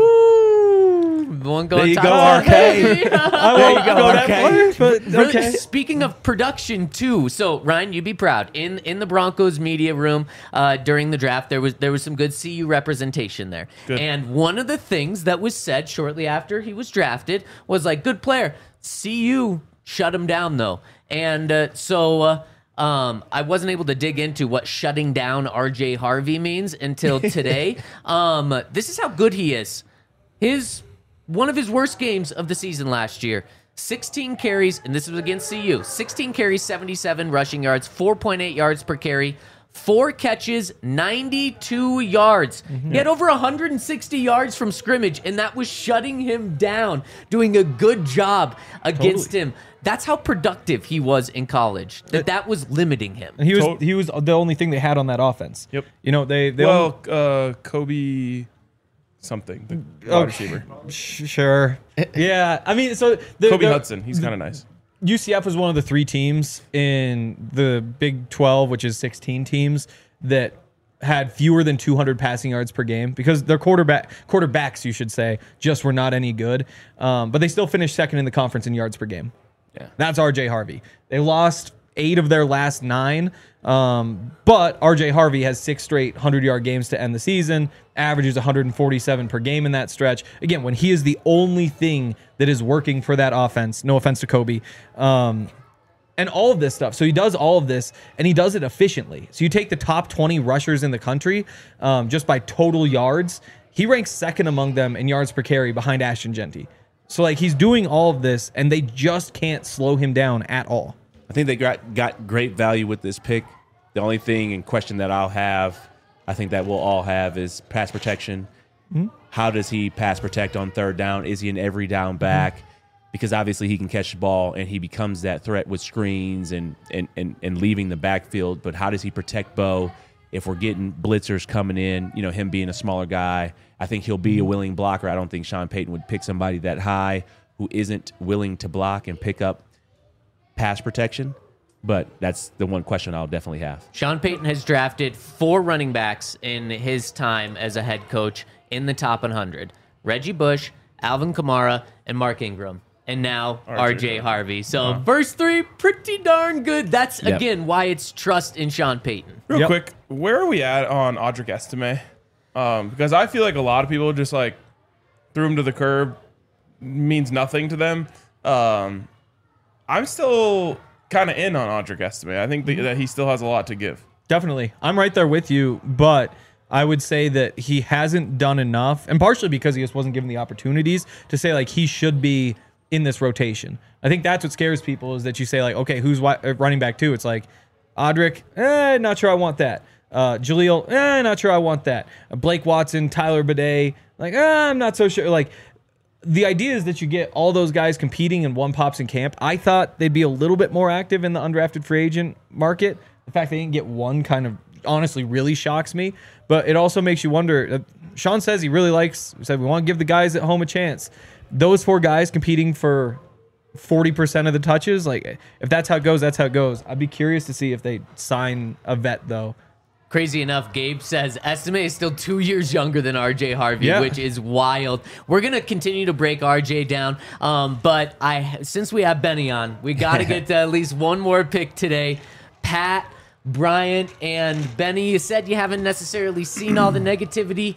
The one going There you top go, top. R K. I There won't you go, go that okay. far, but Really, okay. Speaking of production too, so Ryan, you'd be proud. In in the Broncos media room uh, during the draft, there was there was some good C U representation there. Good. And one of the things that was said shortly after he was drafted was like, "Good player." C U shut him down though, and uh, so. Uh, Um, I wasn't able to dig into what shutting down R J Harvey means until today. um, this is how good he is. His one of his worst games of the season last year. sixteen carries, and this was against C U. sixteen carries, seventy-seven rushing yards, four point eight yards per carry, four catches, ninety-two yards. He had over one hundred sixty yards from scrimmage, and that was shutting him down, doing a good job against Totally. him. That's how productive he was in college. That that was limiting him. And he was To- he was the only thing they had on that offense. Yep. You know they they Well, uh, Kobe something, the wide Oh, receiver. sh- sure. Yeah, I mean, so the, Kobe the- Hudson. He's kind of nice. U C F was one of the three teams in the Big twelve, which is sixteen teams, that had fewer than two hundred passing yards per game because their quarterback quarterbacks, you should say, just were not any good. Um, but they still finished second in the conference in yards per game. Yeah. That's R J Harvey. They lost eight of their last nine, um, but R J Harvey has six straight hundred-yard games to end the season, averages one hundred forty-seven per game in that stretch. Again, when he is the only thing that is working for that offense, no offense to Kobe, um, and all of this stuff. So he does all of this, and he does it efficiently. So you take the top twenty rushers in the country um, just by total yards. He ranks second among them in yards per carry behind Ashton Genty. So, like, he's doing all of this, and they just can't slow him down at all. I think they got, got great value with this pick. The only thing in question that I'll have, I think that we'll all have, is pass protection. Mm-hmm. How does he pass protect on third down? Is he an every down back? Mm-hmm. Because obviously he can catch the ball and he becomes that threat with screens and, and, and, and leaving the backfield. But how does he protect Bo if we're getting blitzers coming in, you know, him being a smaller guy? I think he'll be a willing blocker. I don't think Sean Payton would pick somebody that high who isn't willing to block and pick up pass protection. But that's the one question I'll definitely have. Sean Payton has drafted four running backs in his time as a head coach in the top one hundred. Reggie Bush, Alvin Kamara, and Mark Ingram. And now R J Harvey. So first three, pretty darn good. That's, Yep. again, why it's trust in Sean Payton. Real Yep. quick, where are we at on Audric Estime? Um, because I feel like a lot of people just like threw him to the curb, means nothing to them. Um, I'm still kind of in on Audric Estime. I think the, that he still has a lot to give. Definitely. I'm right there with you, but I would say that he hasn't done enough, and partially because he just wasn't given the opportunities to say, like, he should be in this rotation. I think that's what scares people is that you say, like, okay, who's wi- uh, running back two? It's like, Audric, eh, not sure I want that. Uh, Jaleel, eh, not sure I want that. Uh, Blake Watson, Tyler Bidet, like, eh, I'm not so sure. Like, the idea is that you get all those guys competing in one pops in camp. I thought they'd be a little bit more active in the undrafted free agent market. The fact they didn't get one kind of honestly really shocks me, but it also makes you wonder. Uh, Sean says he really likes, he said we want to give the guys at home a chance. Those four guys competing for forty percent of the touches, like if that's how it goes, that's how it goes. I'd be curious to see if they sign a vet though. Crazy enough, Gabe says Estime is still two years younger than R J Harvey, Yeah. which is wild. We're gonna continue to break R J down, um, but I since we have Benny on, we got to get to at least one more pick today. Pat, Bryant, and Benny. You said you haven't necessarily seen all the negativity.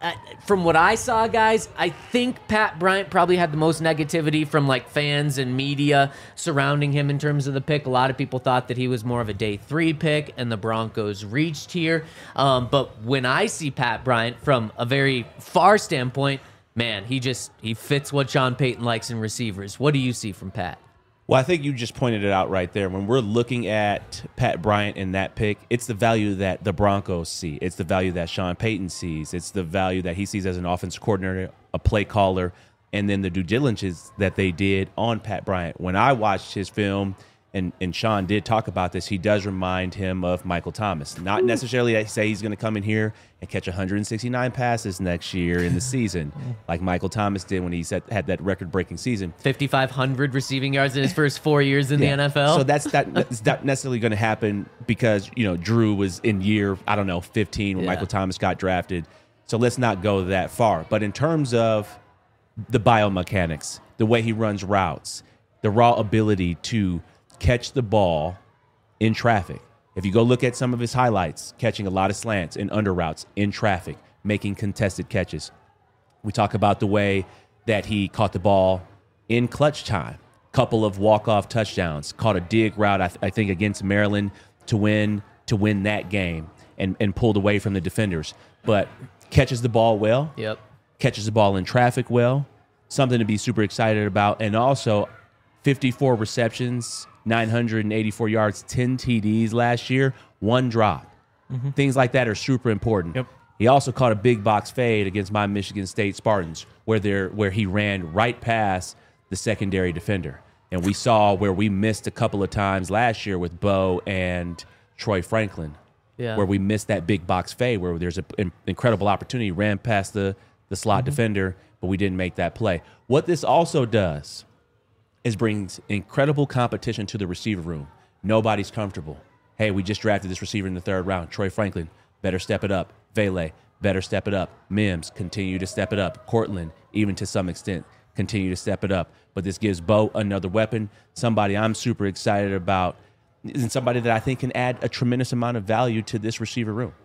uh, from what I saw, guys, I think Pat Bryant probably had the most negativity from like fans and media surrounding him in terms of the pick. A lot of people thought that he was more of a day three pick and the Broncos reached here. Um, but when I see Pat Bryant from a very far standpoint, man, he just he fits what Sean Payton likes in receivers. What do you see from Pat? Well, I think you just pointed it out right there. When we're looking at Pat Bryant and that pick, it's the value that the Broncos see. It's the value that Sean Payton sees. It's the value that he sees as an offensive coordinator, a play caller, and then the due diligence that they did on Pat Bryant. When I watched his film, and, and Sean did talk about this, he does remind him of Michael Thomas. Not necessarily I say he's going to come in here and catch one hundred sixty-nine passes next year in the season, like Michael Thomas did when he set, had that record-breaking season. fifty-five hundred receiving yards in his first four years in Yeah. the N F L. So that's that, that's not necessarily going to happen because, you know, Drew was in year, I don't know, fifteen when Yeah. Michael Thomas got drafted. So let's not go that far. But in terms of the biomechanics, the way he runs routes, the raw ability to catch the ball in traffic. If you go look at some of his highlights, catching a lot of slants and under routes in traffic, making contested catches. We talk about the way that he caught the ball in clutch time. Couple of walk-off touchdowns. Caught a dig route, I, th- I think, against Maryland to win to win that game and, and pulled away from the defenders. But catches the ball well. Yep. Catches the ball in traffic well. Something to be super excited about. And also, fifty-four receptions, nine hundred eighty-four yards, ten T Ds last year, one drop. Mm-hmm. Things like that are super important. Yep. He also caught a big box fade against my Michigan State Spartans, where there where he ran right past the secondary defender. And we saw where we missed a couple of times last year with Bo and Troy Franklin, Yeah. where we missed that big box fade, where there's an incredible opportunity, ran past the, the slot Mm-hmm. defender, but we didn't make that play. What this also does is brings incredible competition to the receiver room. Nobody's comfortable. Hey, we just drafted this receiver in the third round. Troy Franklin, better step it up. Vele, better step it up. Mims, continue to step it up. Cortland, even to some extent, continue to step it up. But this gives Bo another weapon, somebody I'm super excited about, and somebody that I think can add a tremendous amount of value to this receiver room.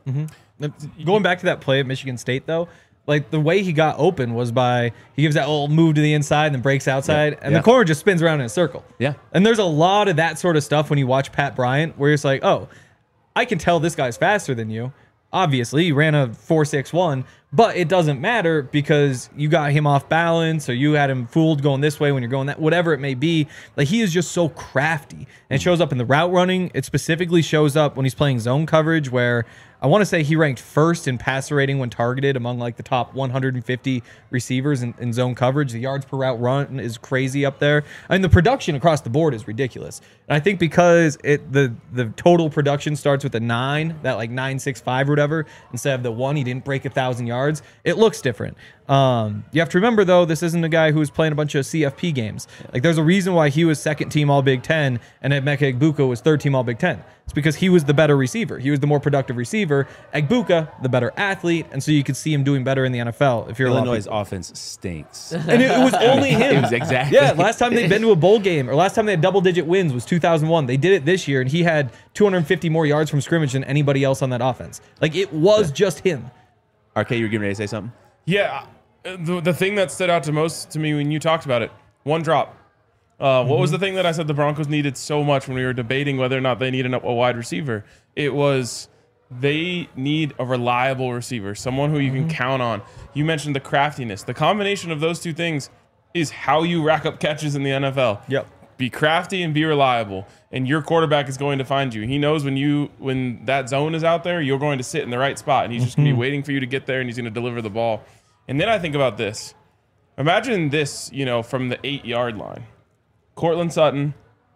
Going back to that play at Michigan State, though, like the way he got open was by he gives that little move to the inside and then breaks outside, Yeah. and Yeah. the corner just spins around in a circle. Yeah. And there's a lot of that sort of stuff when you watch Pat Bryant, where it's like, oh, I can tell this guy's faster than you. Obviously, he ran a four six one, but it doesn't matter because you got him off balance or you had him fooled going this way when you're going that, whatever it may be. Like, he is just so crafty. And it shows up in the route running. It specifically shows up when he's playing zone coverage, where I want to say he ranked first in passer rating when targeted among like the top one hundred fifty receivers in, in zone coverage. The yards per route run is crazy up there. I mean, the production across the board is ridiculous. And I think because it the the total production starts with a nine, that like nine six five or whatever, instead of the one, he didn't break a thousand yards. It looks different. Um, you have to remember though, this isn't a guy who was playing a bunch of C F P games. Like, there's a reason why he was second team All Big Ten and Emeka Egbuka was third team All Big Ten. It's because he was the better receiver. He was the more productive receiver. Egbuka, the better athlete, and so you could see him doing better in the N F L. If you're a lot of Illinois' people. offense stinks. And it, it was only him. It was exactly. Yeah, last time they'd been to a bowl game, or last time they had double-digit wins was two thousand one. They did it this year, and he had two hundred fifty more yards from scrimmage than anybody else on that offense. Like, it was just him. R K, you were getting ready to say something? Yeah, uh, the, the thing that stood out to most to me when you talked about it, one drop. Uh, what was the thing that I said the Broncos needed so much when we were debating whether or not they needed a, a wide receiver? It was they need a reliable receiver, someone who you can count on. You mentioned the craftiness. The combination of those two things is how you rack up catches in the N F L. Yep. Be crafty and be reliable, and your quarterback is going to find you. He knows when you when that zone is out there, you're going to sit in the right spot, and he's just going to be waiting for you to get there, and he's going to deliver the ball. And then I think about this. Imagine this, you know, from the eight-yard line. Cortland Sutton.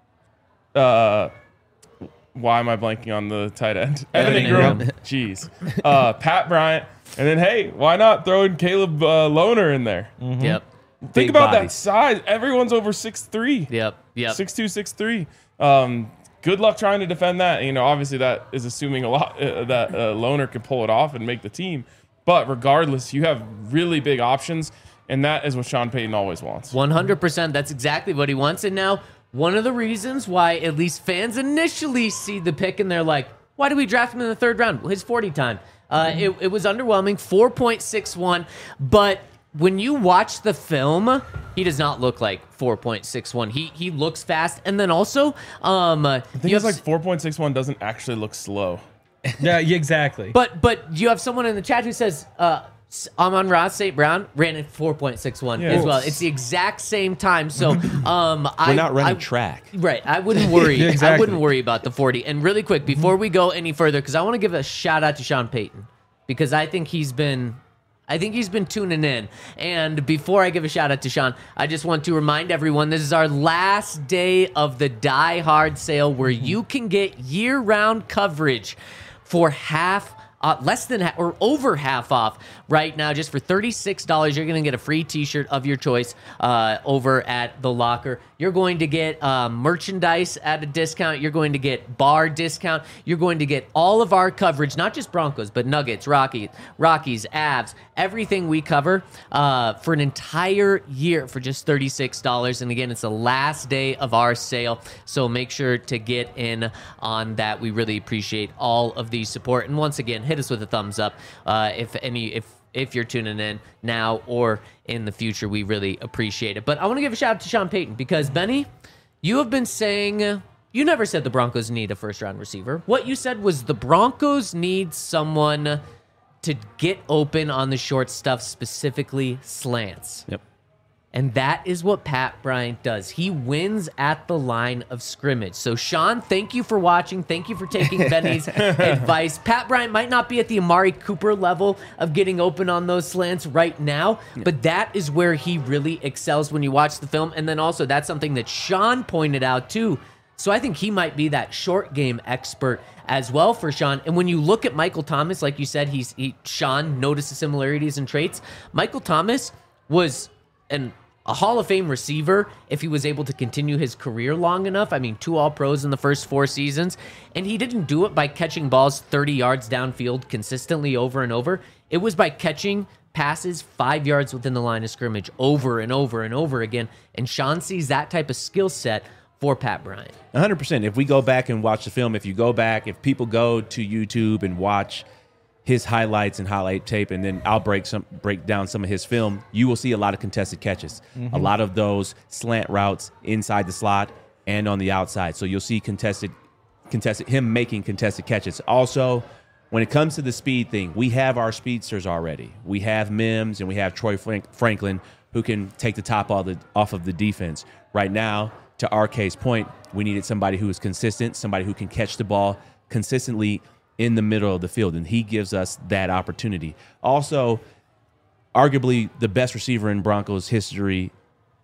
Uh, why am I blanking on the tight end? Evan Evan Ingram. Ingram. Jeez. Uh, Pat Bryant. And then, hey, why not throw in Caleb uh, Lohner in there? Yep. Think Big about that bodies. size. Everyone's over six three. Yep. Yep. Six two, six three. Um, good luck trying to defend that. You know, obviously that is assuming a lot uh, that uh, Loner can pull it off and make the team. But regardless, you have really big options, and that is what Sean Payton always wants. one hundred percent. That's exactly what he wants. And now, one of the reasons why at least fans initially see the pick and they're like, why do we draft him in the third round? His forty time. Uh, it, it was underwhelming, four point six one, but when you watch the film, he does not look like four point six one. He he looks fast, and then also, um, I think you it's have like four point six one doesn't actually look slow. Yeah, yeah, exactly. But but you have someone in the chat who says uh, Amon-Ra Saint Brown ran at four point six one Yeah. as well. It's the exact same time. So um, I, We're not running I- track. Right. I wouldn't worry. Yeah, I exactly. wouldn't worry about the forty. And really quick, before we go any further, because I want to give a shout out to Sean Payton, because I think he's been I think he's been tuning in. And before I give a shout out to Sean, I just want to remind everyone this is our last day of the Die Hard sale where you can get year-round coverage for half Uh, less than ha- or over half off right now. Just for thirty-six dollars, you're going to get a free t-shirt of your choice uh, over at The Locker. You're going to get uh, merchandise at a discount. You're going to get bar discount. You're going to get all of our coverage, not just Broncos, but Nuggets, Rockies, Rockies, Avs, everything we cover uh, for an entire year for just thirty-six dollars. And again, it's the last day of our sale, so make sure to get in on that. We really appreciate all of the support. And once again, hit us with a thumbs up uh, if any if if you're tuning in now or in the future. We really appreciate it. But I want to give a shout out to Sean Payton, because Benny, you have been saying you never said the Broncos need a first round receiver. What you said was the Broncos need someone to get open on the short stuff, specifically slants. Yep. And that is what Pat Bryant does. He wins at the line of scrimmage. So, Sean, thank you for watching. Thank you for taking Benny's advice. Pat Bryant might not be at the Amari Cooper level of getting open on those slants right now, but that is where he really excels when you watch the film. And then also, that's something that Sean pointed out, too. So I think he might be that short game expert as well for Sean. And when you look at Michael Thomas, like you said, he's he, Sean noticed the similarities and traits. Michael Thomas was an a Hall of Fame receiver if he was able to continue his career long enough. I mean, two All-Pros in the first four seasons. And he didn't do it by catching balls thirty yards downfield consistently over and over. It was by catching passes five yards within the line of scrimmage over and over and over again. And Sean sees that type of skill set for Pat Bryant. one hundred percent. If we go back and watch the film, if you go back, if people go to YouTube and watch his highlights and highlight tape, and then I'll break some break down some of his film, you will see a lot of contested catches. Mm-hmm. A lot of those slant routes inside the slot and on the outside. So you'll see contested contested him making contested catches. Also, when it comes to the speed thing, we have our speedsters already. We have Mims and we have Troy Frank- Franklin who can take the top off, the, off of the defense. Right now, to R K's point, we needed somebody who is consistent, somebody who can catch the ball consistently in the middle of the field, and he gives us that opportunity. Also, arguably the best receiver in Broncos history,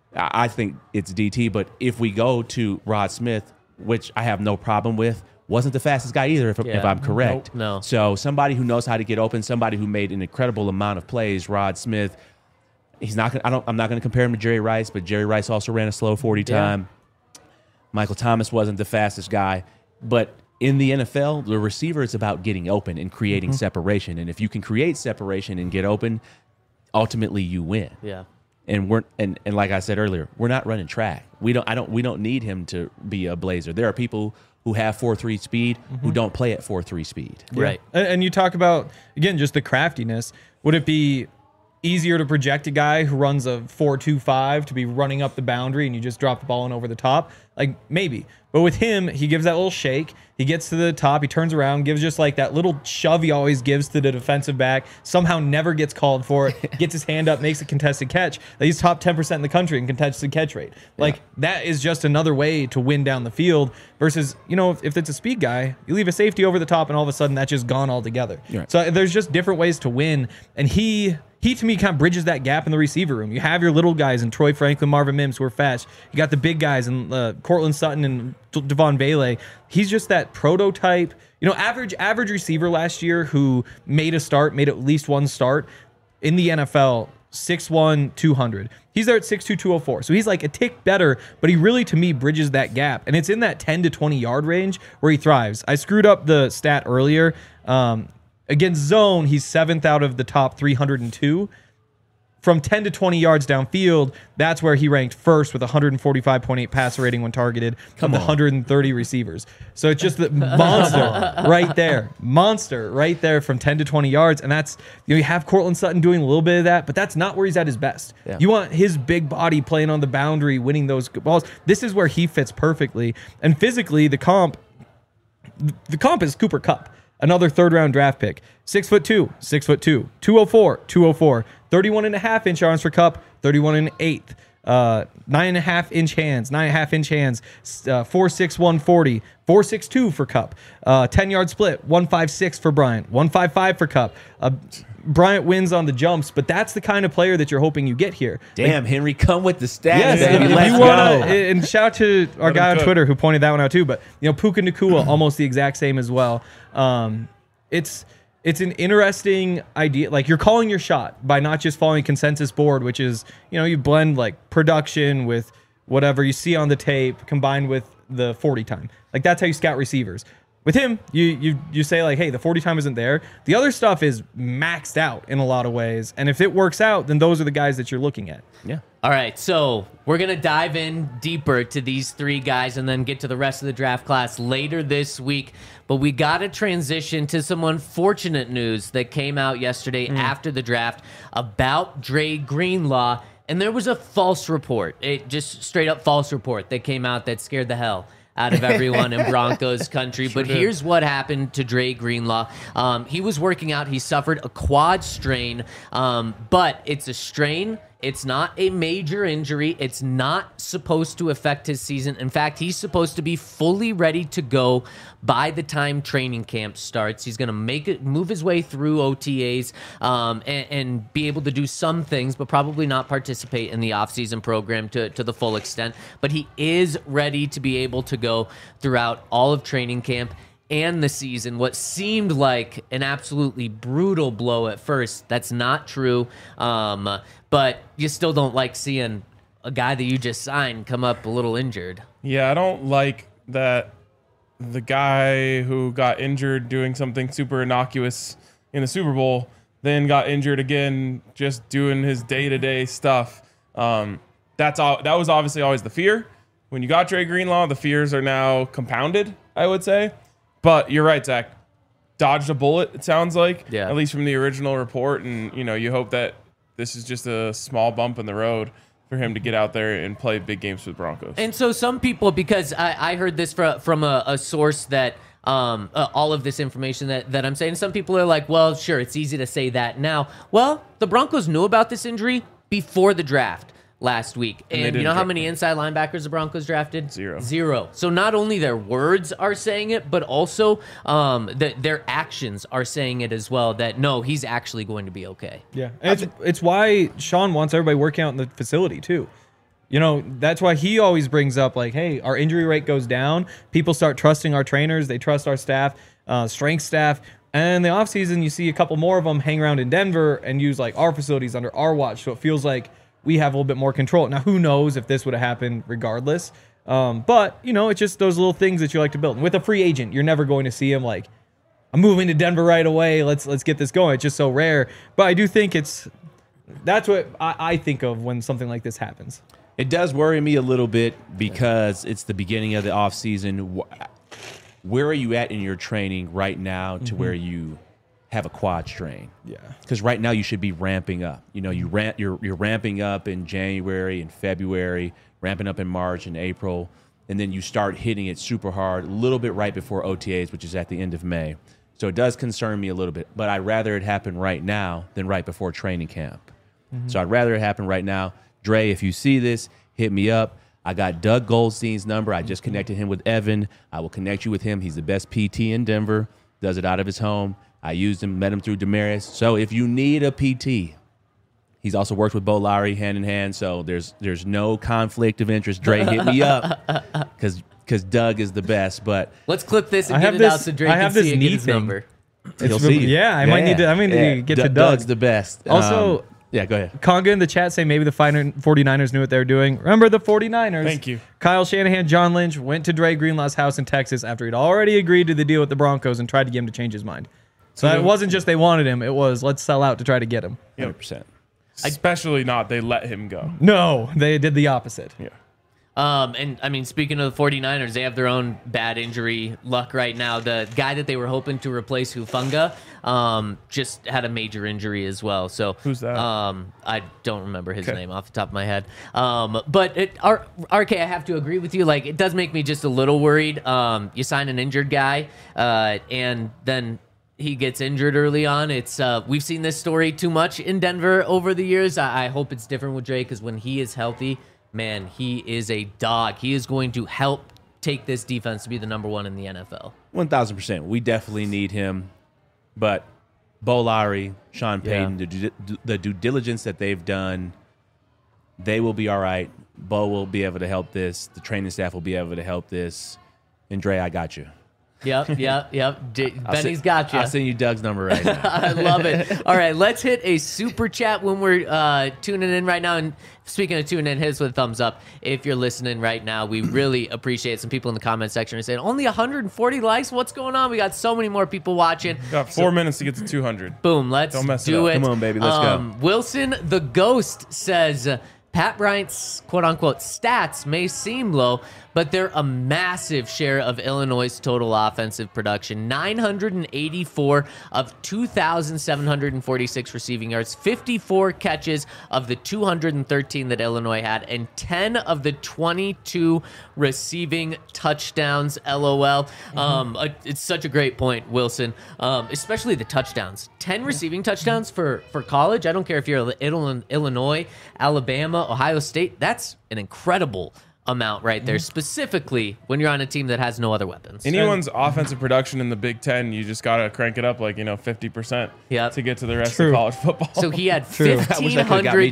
I think it's D T, but if we go to Rod Smith, which I have no problem with, wasn't the fastest guy either, if, Yeah. if I'm correct. Nope, no. So somebody who knows how to get open, somebody who made an incredible amount of plays, Rod Smith. He's not gonna, I don't, I'm not going to compare him to Jerry Rice, but Jerry Rice also ran a slow forty Yeah. time. Michael Thomas wasn't the fastest guy, but in the N F L, the receiver is about getting open and creating Mm-hmm. separation. And if you can create separation and get open, ultimately you win. Yeah. And we're and, and like I said earlier, we're not running track. We don't I don't we don't need him to be a blazer. There are people who have four three speed who don't play at four three speed. Right. And, and you talk about, again, just the craftiness. Would it be easier to project a guy who runs a four two five to be running up the boundary and you just drop the ball in over the top? Like, maybe. But with him, he gives that little shake. He gets to the top. He turns around, gives just like that little shove he always gives to the defensive back. Somehow never gets called for it. Gets his hand up, makes a contested catch. Like, he's top ten percent in the country in contested catch rate. Like, yeah. That is just another way to win down the field versus, you know, if, if it's a speed guy, you leave a safety over the top and all of a sudden that's just gone altogether. Right. So there's just different ways to win. And he... He, to me, kind of bridges that gap in the receiver room. You have your little guys in Troy Franklin, Marvin Mims, who are fast. You got the big guys in uh, Cortland Sutton and Devon Bailey. He's just that prototype, you know, average average receiver last year who made a start, made at least one start in the N F L, six one, two hundred. He's there at six two, two oh four. So he's like a tick better, but he really, to me, bridges that gap. And it's in that ten to twenty yard range where he thrives. I screwed up the stat earlier. Um, Against zone, he's seventh out of the top three hundred two. from ten to twenty yards downfield, that's where he ranked first with one forty-five point eight passer rating when targeted of the one hundred thirty receivers. So it's just the monster right there. Monster right there from ten to twenty yards. And that's, you know, you have Cortland Sutton doing a little bit of that, but that's not where he's at his best. Yeah. You want his big body playing on the boundary, winning those balls. This is where he fits perfectly. And physically, the comp, the comp is Cooper Kupp. Another third round draft pick. Six foot two, six foot two, two oh four, two oh four, thirty-one and a half inch arms for Kupp, thirty-one and an eighth, uh, nine and a half inch hands, nine and a half inch hands, uh, four six, one forty, four six two for Kupp, uh, ten yard split, one five six for Bryant, one five five for Kupp. Uh, Bryant wins on the jumps, but that's the kind of player that you're hoping you get here. Damn, like, Henry, come with the stats. Yes, baby. if, if Let's you go. want to, and shout out to our Let guy him on cook. Twitter who pointed that one out too. But you know, Puka Nacua, almost the exact same as well. Um, it's it's an interesting idea. Like, you're calling your shot by not just following consensus board, which is, you know, you blend like production with whatever you see on the tape combined with the forty time. Like, that's how you scout receivers. With him, you you you say like, hey, the forty time isn't there. The other stuff is maxed out in a lot of ways, and if it works out, then those are the guys that you're looking at. Yeah. All right, so we're going to dive in deeper to these three guys and then get to the rest of the draft class later this week. But we got to transition to some unfortunate news that came out yesterday after the draft about Dre Greenlaw. And there was a false report, it just straight up false report that came out that scared the hell out of everyone in Broncos country. But here's what happened to Dre Greenlaw. Um, he was working out. He suffered a quad strain, um, but it's a strain. It's not a major injury. It's not supposed to affect his season. In fact, he's supposed to be fully ready to go by the time training camp starts. He's going to make it, move his way through O T As um, and, and be able to do some things, but probably not participate in the offseason program to, to the full extent. But he is ready to be able to go throughout all of training camp and the season. What seemed like an absolutely brutal blow at first, that's not true. Um, but you still don't like seeing a guy that you just signed come up a little injured. Yeah, I don't like that the guy who got injured doing something super innocuous in the Super Bowl then got injured again just doing his day-to-day stuff. Um, that's all. That was obviously always the fear. When you got Dre Greenlaw, the fears are now compounded, I would say. But you're right, Zach. Dodged a bullet, it sounds like, Yeah. at least from the original report. And, you know, you hope that this is just a small bump in the road for him to get out there and play big games with Broncos. And so some people, because I, I heard this from, from a, a source that um, uh, all of this information that, that I'm saying, some people are like, well, sure, it's easy to say that now. Well, the Broncos knew about this injury before the draft last week. And they And, you didn't know how draft many him. inside linebackers the Broncos drafted? Zero. Zero. So not only their words are saying it, but also um, the, their actions are saying it as well, that no, he's actually going to be okay. Yeah, and it's it's why Sean wants everybody working out in the facility too. You know, that's why he always brings up like, hey, our injury rate goes down. People start trusting our trainers. They trust our staff, uh, strength staff. And in the offseason, you see a couple more of them hang around in Denver and use like our facilities under our watch. So it feels like we have a little bit more control. Now, who knows if this would have happened regardless. Um, but, you know, it's just those little things that you like to build. And with a free agent, you're never going to see him like, I'm moving to Denver right away. Let's let's get this going. It's just so rare. But I do think it's that's what I, I think of when something like this happens. It does worry me a little bit because it's the beginning of the offseason. Where are you at in your training right now to where you have a quad strain? Yeah. Because right now you should be ramping up. You know, you ramp, you're, you're ramping up in January and February, ramping up in March and April, and then you start hitting it super hard a little bit right before O T As, which is at the end of May. So it does concern me a little bit, but I'd rather it happen right now than right before training camp. Mm-hmm. So I'd rather it happen right now. Dre, if you see this, hit me up. I got Doug Goldstein's number. I just connected him with Evan. I will connect you with him. He's the best P T in Denver, does it out of his home. I used him, met him through Demarius. So if you need a P T, he's also worked with Bo Lowry hand in hand. So there's there's no conflict of interest. Dre, hit me up because because Doug is the best. But Let's clip this and I get have it this- out so Drake I have can see this it, get knee his thing. number. he'll It's- see you. yeah, I might need to- I might need to get to Doug. Doug's the best. Also- Um, yeah, go ahead. Conga in the chat say maybe the finer- 49ers knew what they were doing. Remember the 49ers? Thank you. Kyle Shanahan, John Lynch went to Dre Greenlaw's house in Texas after he'd already agreed to the deal with the Broncos and tried to get him to change his mind. So it wasn't just they wanted him. It was let's sell out to try to get him. one hundred percent. Especially not they let him go. No, they did the opposite. Yeah. Um, and I mean, speaking of the 49ers, they have their own bad injury luck right now. The guy that they were hoping to replace Hufanga um, just had a major injury as well. So Who's that? Um, I don't remember his Okay. name off the top of my head. Um, but it, R- RK, I have to agree with you. Like, it does make me just a little worried. Um, you sign an injured guy, uh, and then he gets injured early on. It's uh, we've seen this story too much in Denver over the years. I, I hope it's different with Dre, because when he is healthy, man, he is a dog. He is going to help take this defense to be the number one in the N F L. one thousand percent. We definitely need him. But Bo Lowry, Sean Payton, the, due, the due diligence that they've done, they will be all right. Bo will be able to help this. The training staff will be able to help this. And Dre, I got you. Yep, yep, yep. D- I'll Benny's send- got you. I'll send you Doug's number right now. I love it. All right, let's hit a super chat when we're uh, tuning in right now. And speaking of tuning in, hit us with a thumbs up if you're listening right now. We really appreciate some people in the comment section are saying only one hundred forty likes. What's going on? We got so many more people watching. Got four minutes to get to two hundred. Boom, let's Don't mess it do up. it. Come on, baby, let's go. Wilson the Ghost says uh, Pat Bryant's quote-unquote stats may seem low, but they're a massive share of Illinois' total offensive production. nine hundred eighty-four of two thousand seven hundred forty-six receiving yards, fifty-four catches of the two hundred thirteen that Illinois had, and ten of the twenty-two receiving touchdowns, LOL. Um, uh, it's such a great point, Wilson, um, especially the touchdowns. ten receiving touchdowns for, for college. I don't care if you're Ill- Illinois, Alabama, Ohio State. That's an incredible amount right there, specifically when you're on a team that has no other weapons. Anyone's offensive production in the Big Ten, you just got to crank it up like, you know, fifty percent Yep. to get to the rest True. of college football. So he had True. I wish fifteen that could've got me hundred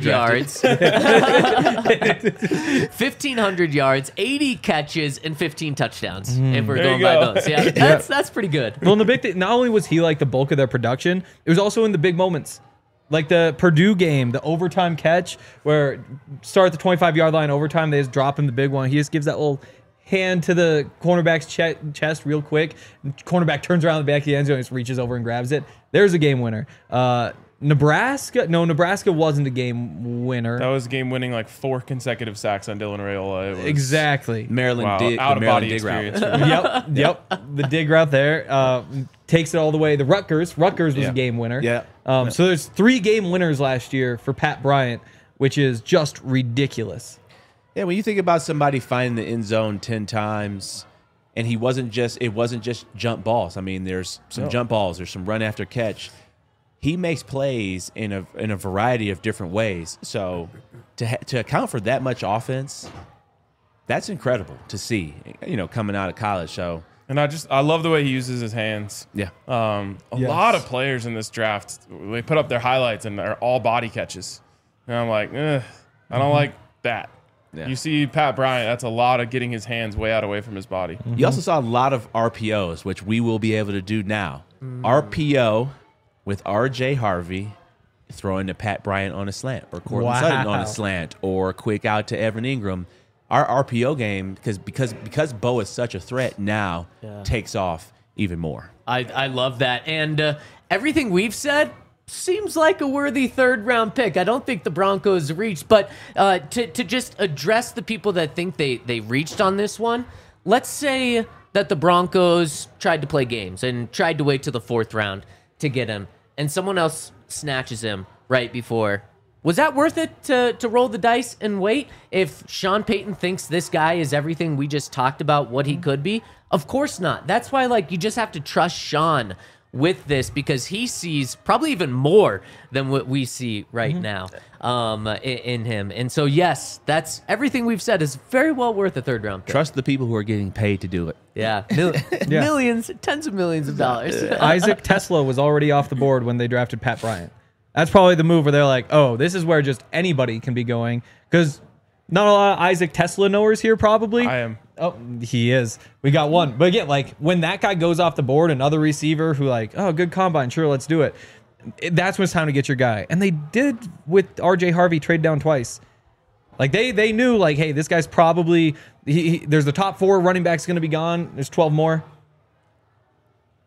drafted. yards, fifteen hundred yards, eighty catches, and fifteen touchdowns. If we're There going you by go. those, yeah, that's that's pretty good. Well, and the big thing, not only was he like the bulk of their production, it was also in the big moments. Like the Purdue game, the overtime catch where start at the twenty-five yard line, overtime, they just drop him the big one. He just gives that little hand to the cornerback's che- chest real quick. Cornerback turns around the back of the end zone and just reaches over and grabs it. There's a game winner. Uh, Nebraska, no, Nebraska wasn't a game winner. That was game winning like four consecutive sacks on Dylan Raiola. It was, Exactly. Maryland Wow, dig, out the of Maryland body dig route. experience. yep, yep. The dig route there uh, takes it all the way. The Rutgers, Rutgers was Yeah. a game winner. Yeah. Um, so there's three game winners last year for Pat Bryant, which is just ridiculous. Yeah, when you think about somebody finding the end zone ten times, and he wasn't just it wasn't just jump balls. I mean, there's some No. jump balls, there's some run after catch. He makes plays in a in a variety of different ways. So to ha- to account for that much offense, that's incredible to see. You know, coming out of college. So And I just I love the way he uses his hands. yeah, Um, a Yes. lot of players in this draft, they put up their highlights and they're all body catches. And I'm like, eh, I don't like that. Yeah. You see Pat Bryant, that's a lot of getting his hands way out away from his body. you also saw a lot of R P Os, which we will be able to do now. R P O with R J Harvey throwing to Pat Bryant on a slant, or Cortland Wow. Sutton on a slant, or quick out to Evan Ingram. Our R P O game, because because because Bo is such a threat now, Yeah. takes off even more. I, I love that. And uh, everything we've said seems like a worthy third round pick. I don't think the Broncos reached, but uh, to, to just address the people that think they, they reached on this one, let's say that the Broncos tried to play games and tried to wait to the fourth round to get him, and someone else snatches him right before. Was that worth it to, to roll the dice and wait? If Sean Payton thinks this guy is everything we just talked about what he could be, of course not. That's why, like, you just have to trust Sean with this, because he sees probably even more than what we see right now um, in, in him. And so, yes, that's everything we've said is very well worth a third round pick. Trust the people who are getting paid to do it. Yeah, Mil- Yeah. millions, tens of millions of dollars. Isaac Tesla was already off the board when they drafted Pat Bryant. That's probably the move where they're like, oh, this is where just anybody can be going. Because not a lot of Isaac Tesla knowers here, probably. I am. Oh, he is. We got one. But again, like when that guy goes off the board, another receiver who like, oh, good combine. Sure, let's do it. It- That's when it's time to get your guy. And they did with R J Harvey trade down twice. Like they they knew like, hey, this guy's probably, he, he, there's the top four running backs going to be gone. There's twelve more.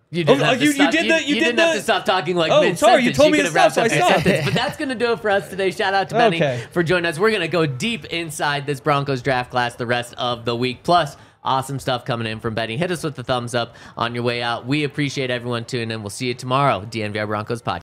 You didn't Oh, have to you- you stop, did the- you did didn't have the- to stop talking like Oh, mid-sentence. sorry, you told me could to have wrapped stop, up so I your stopped. sentence. But that's going to do it for us today. Shout out to Benny Okay. for joining us. We're going to go deep inside this Broncos draft class the rest of the week. Plus, awesome stuff coming in from Benny. Hit us with the thumbs up on your way out. We appreciate everyone tuning in. We'll see you tomorrow. D N V R Broncos podcast.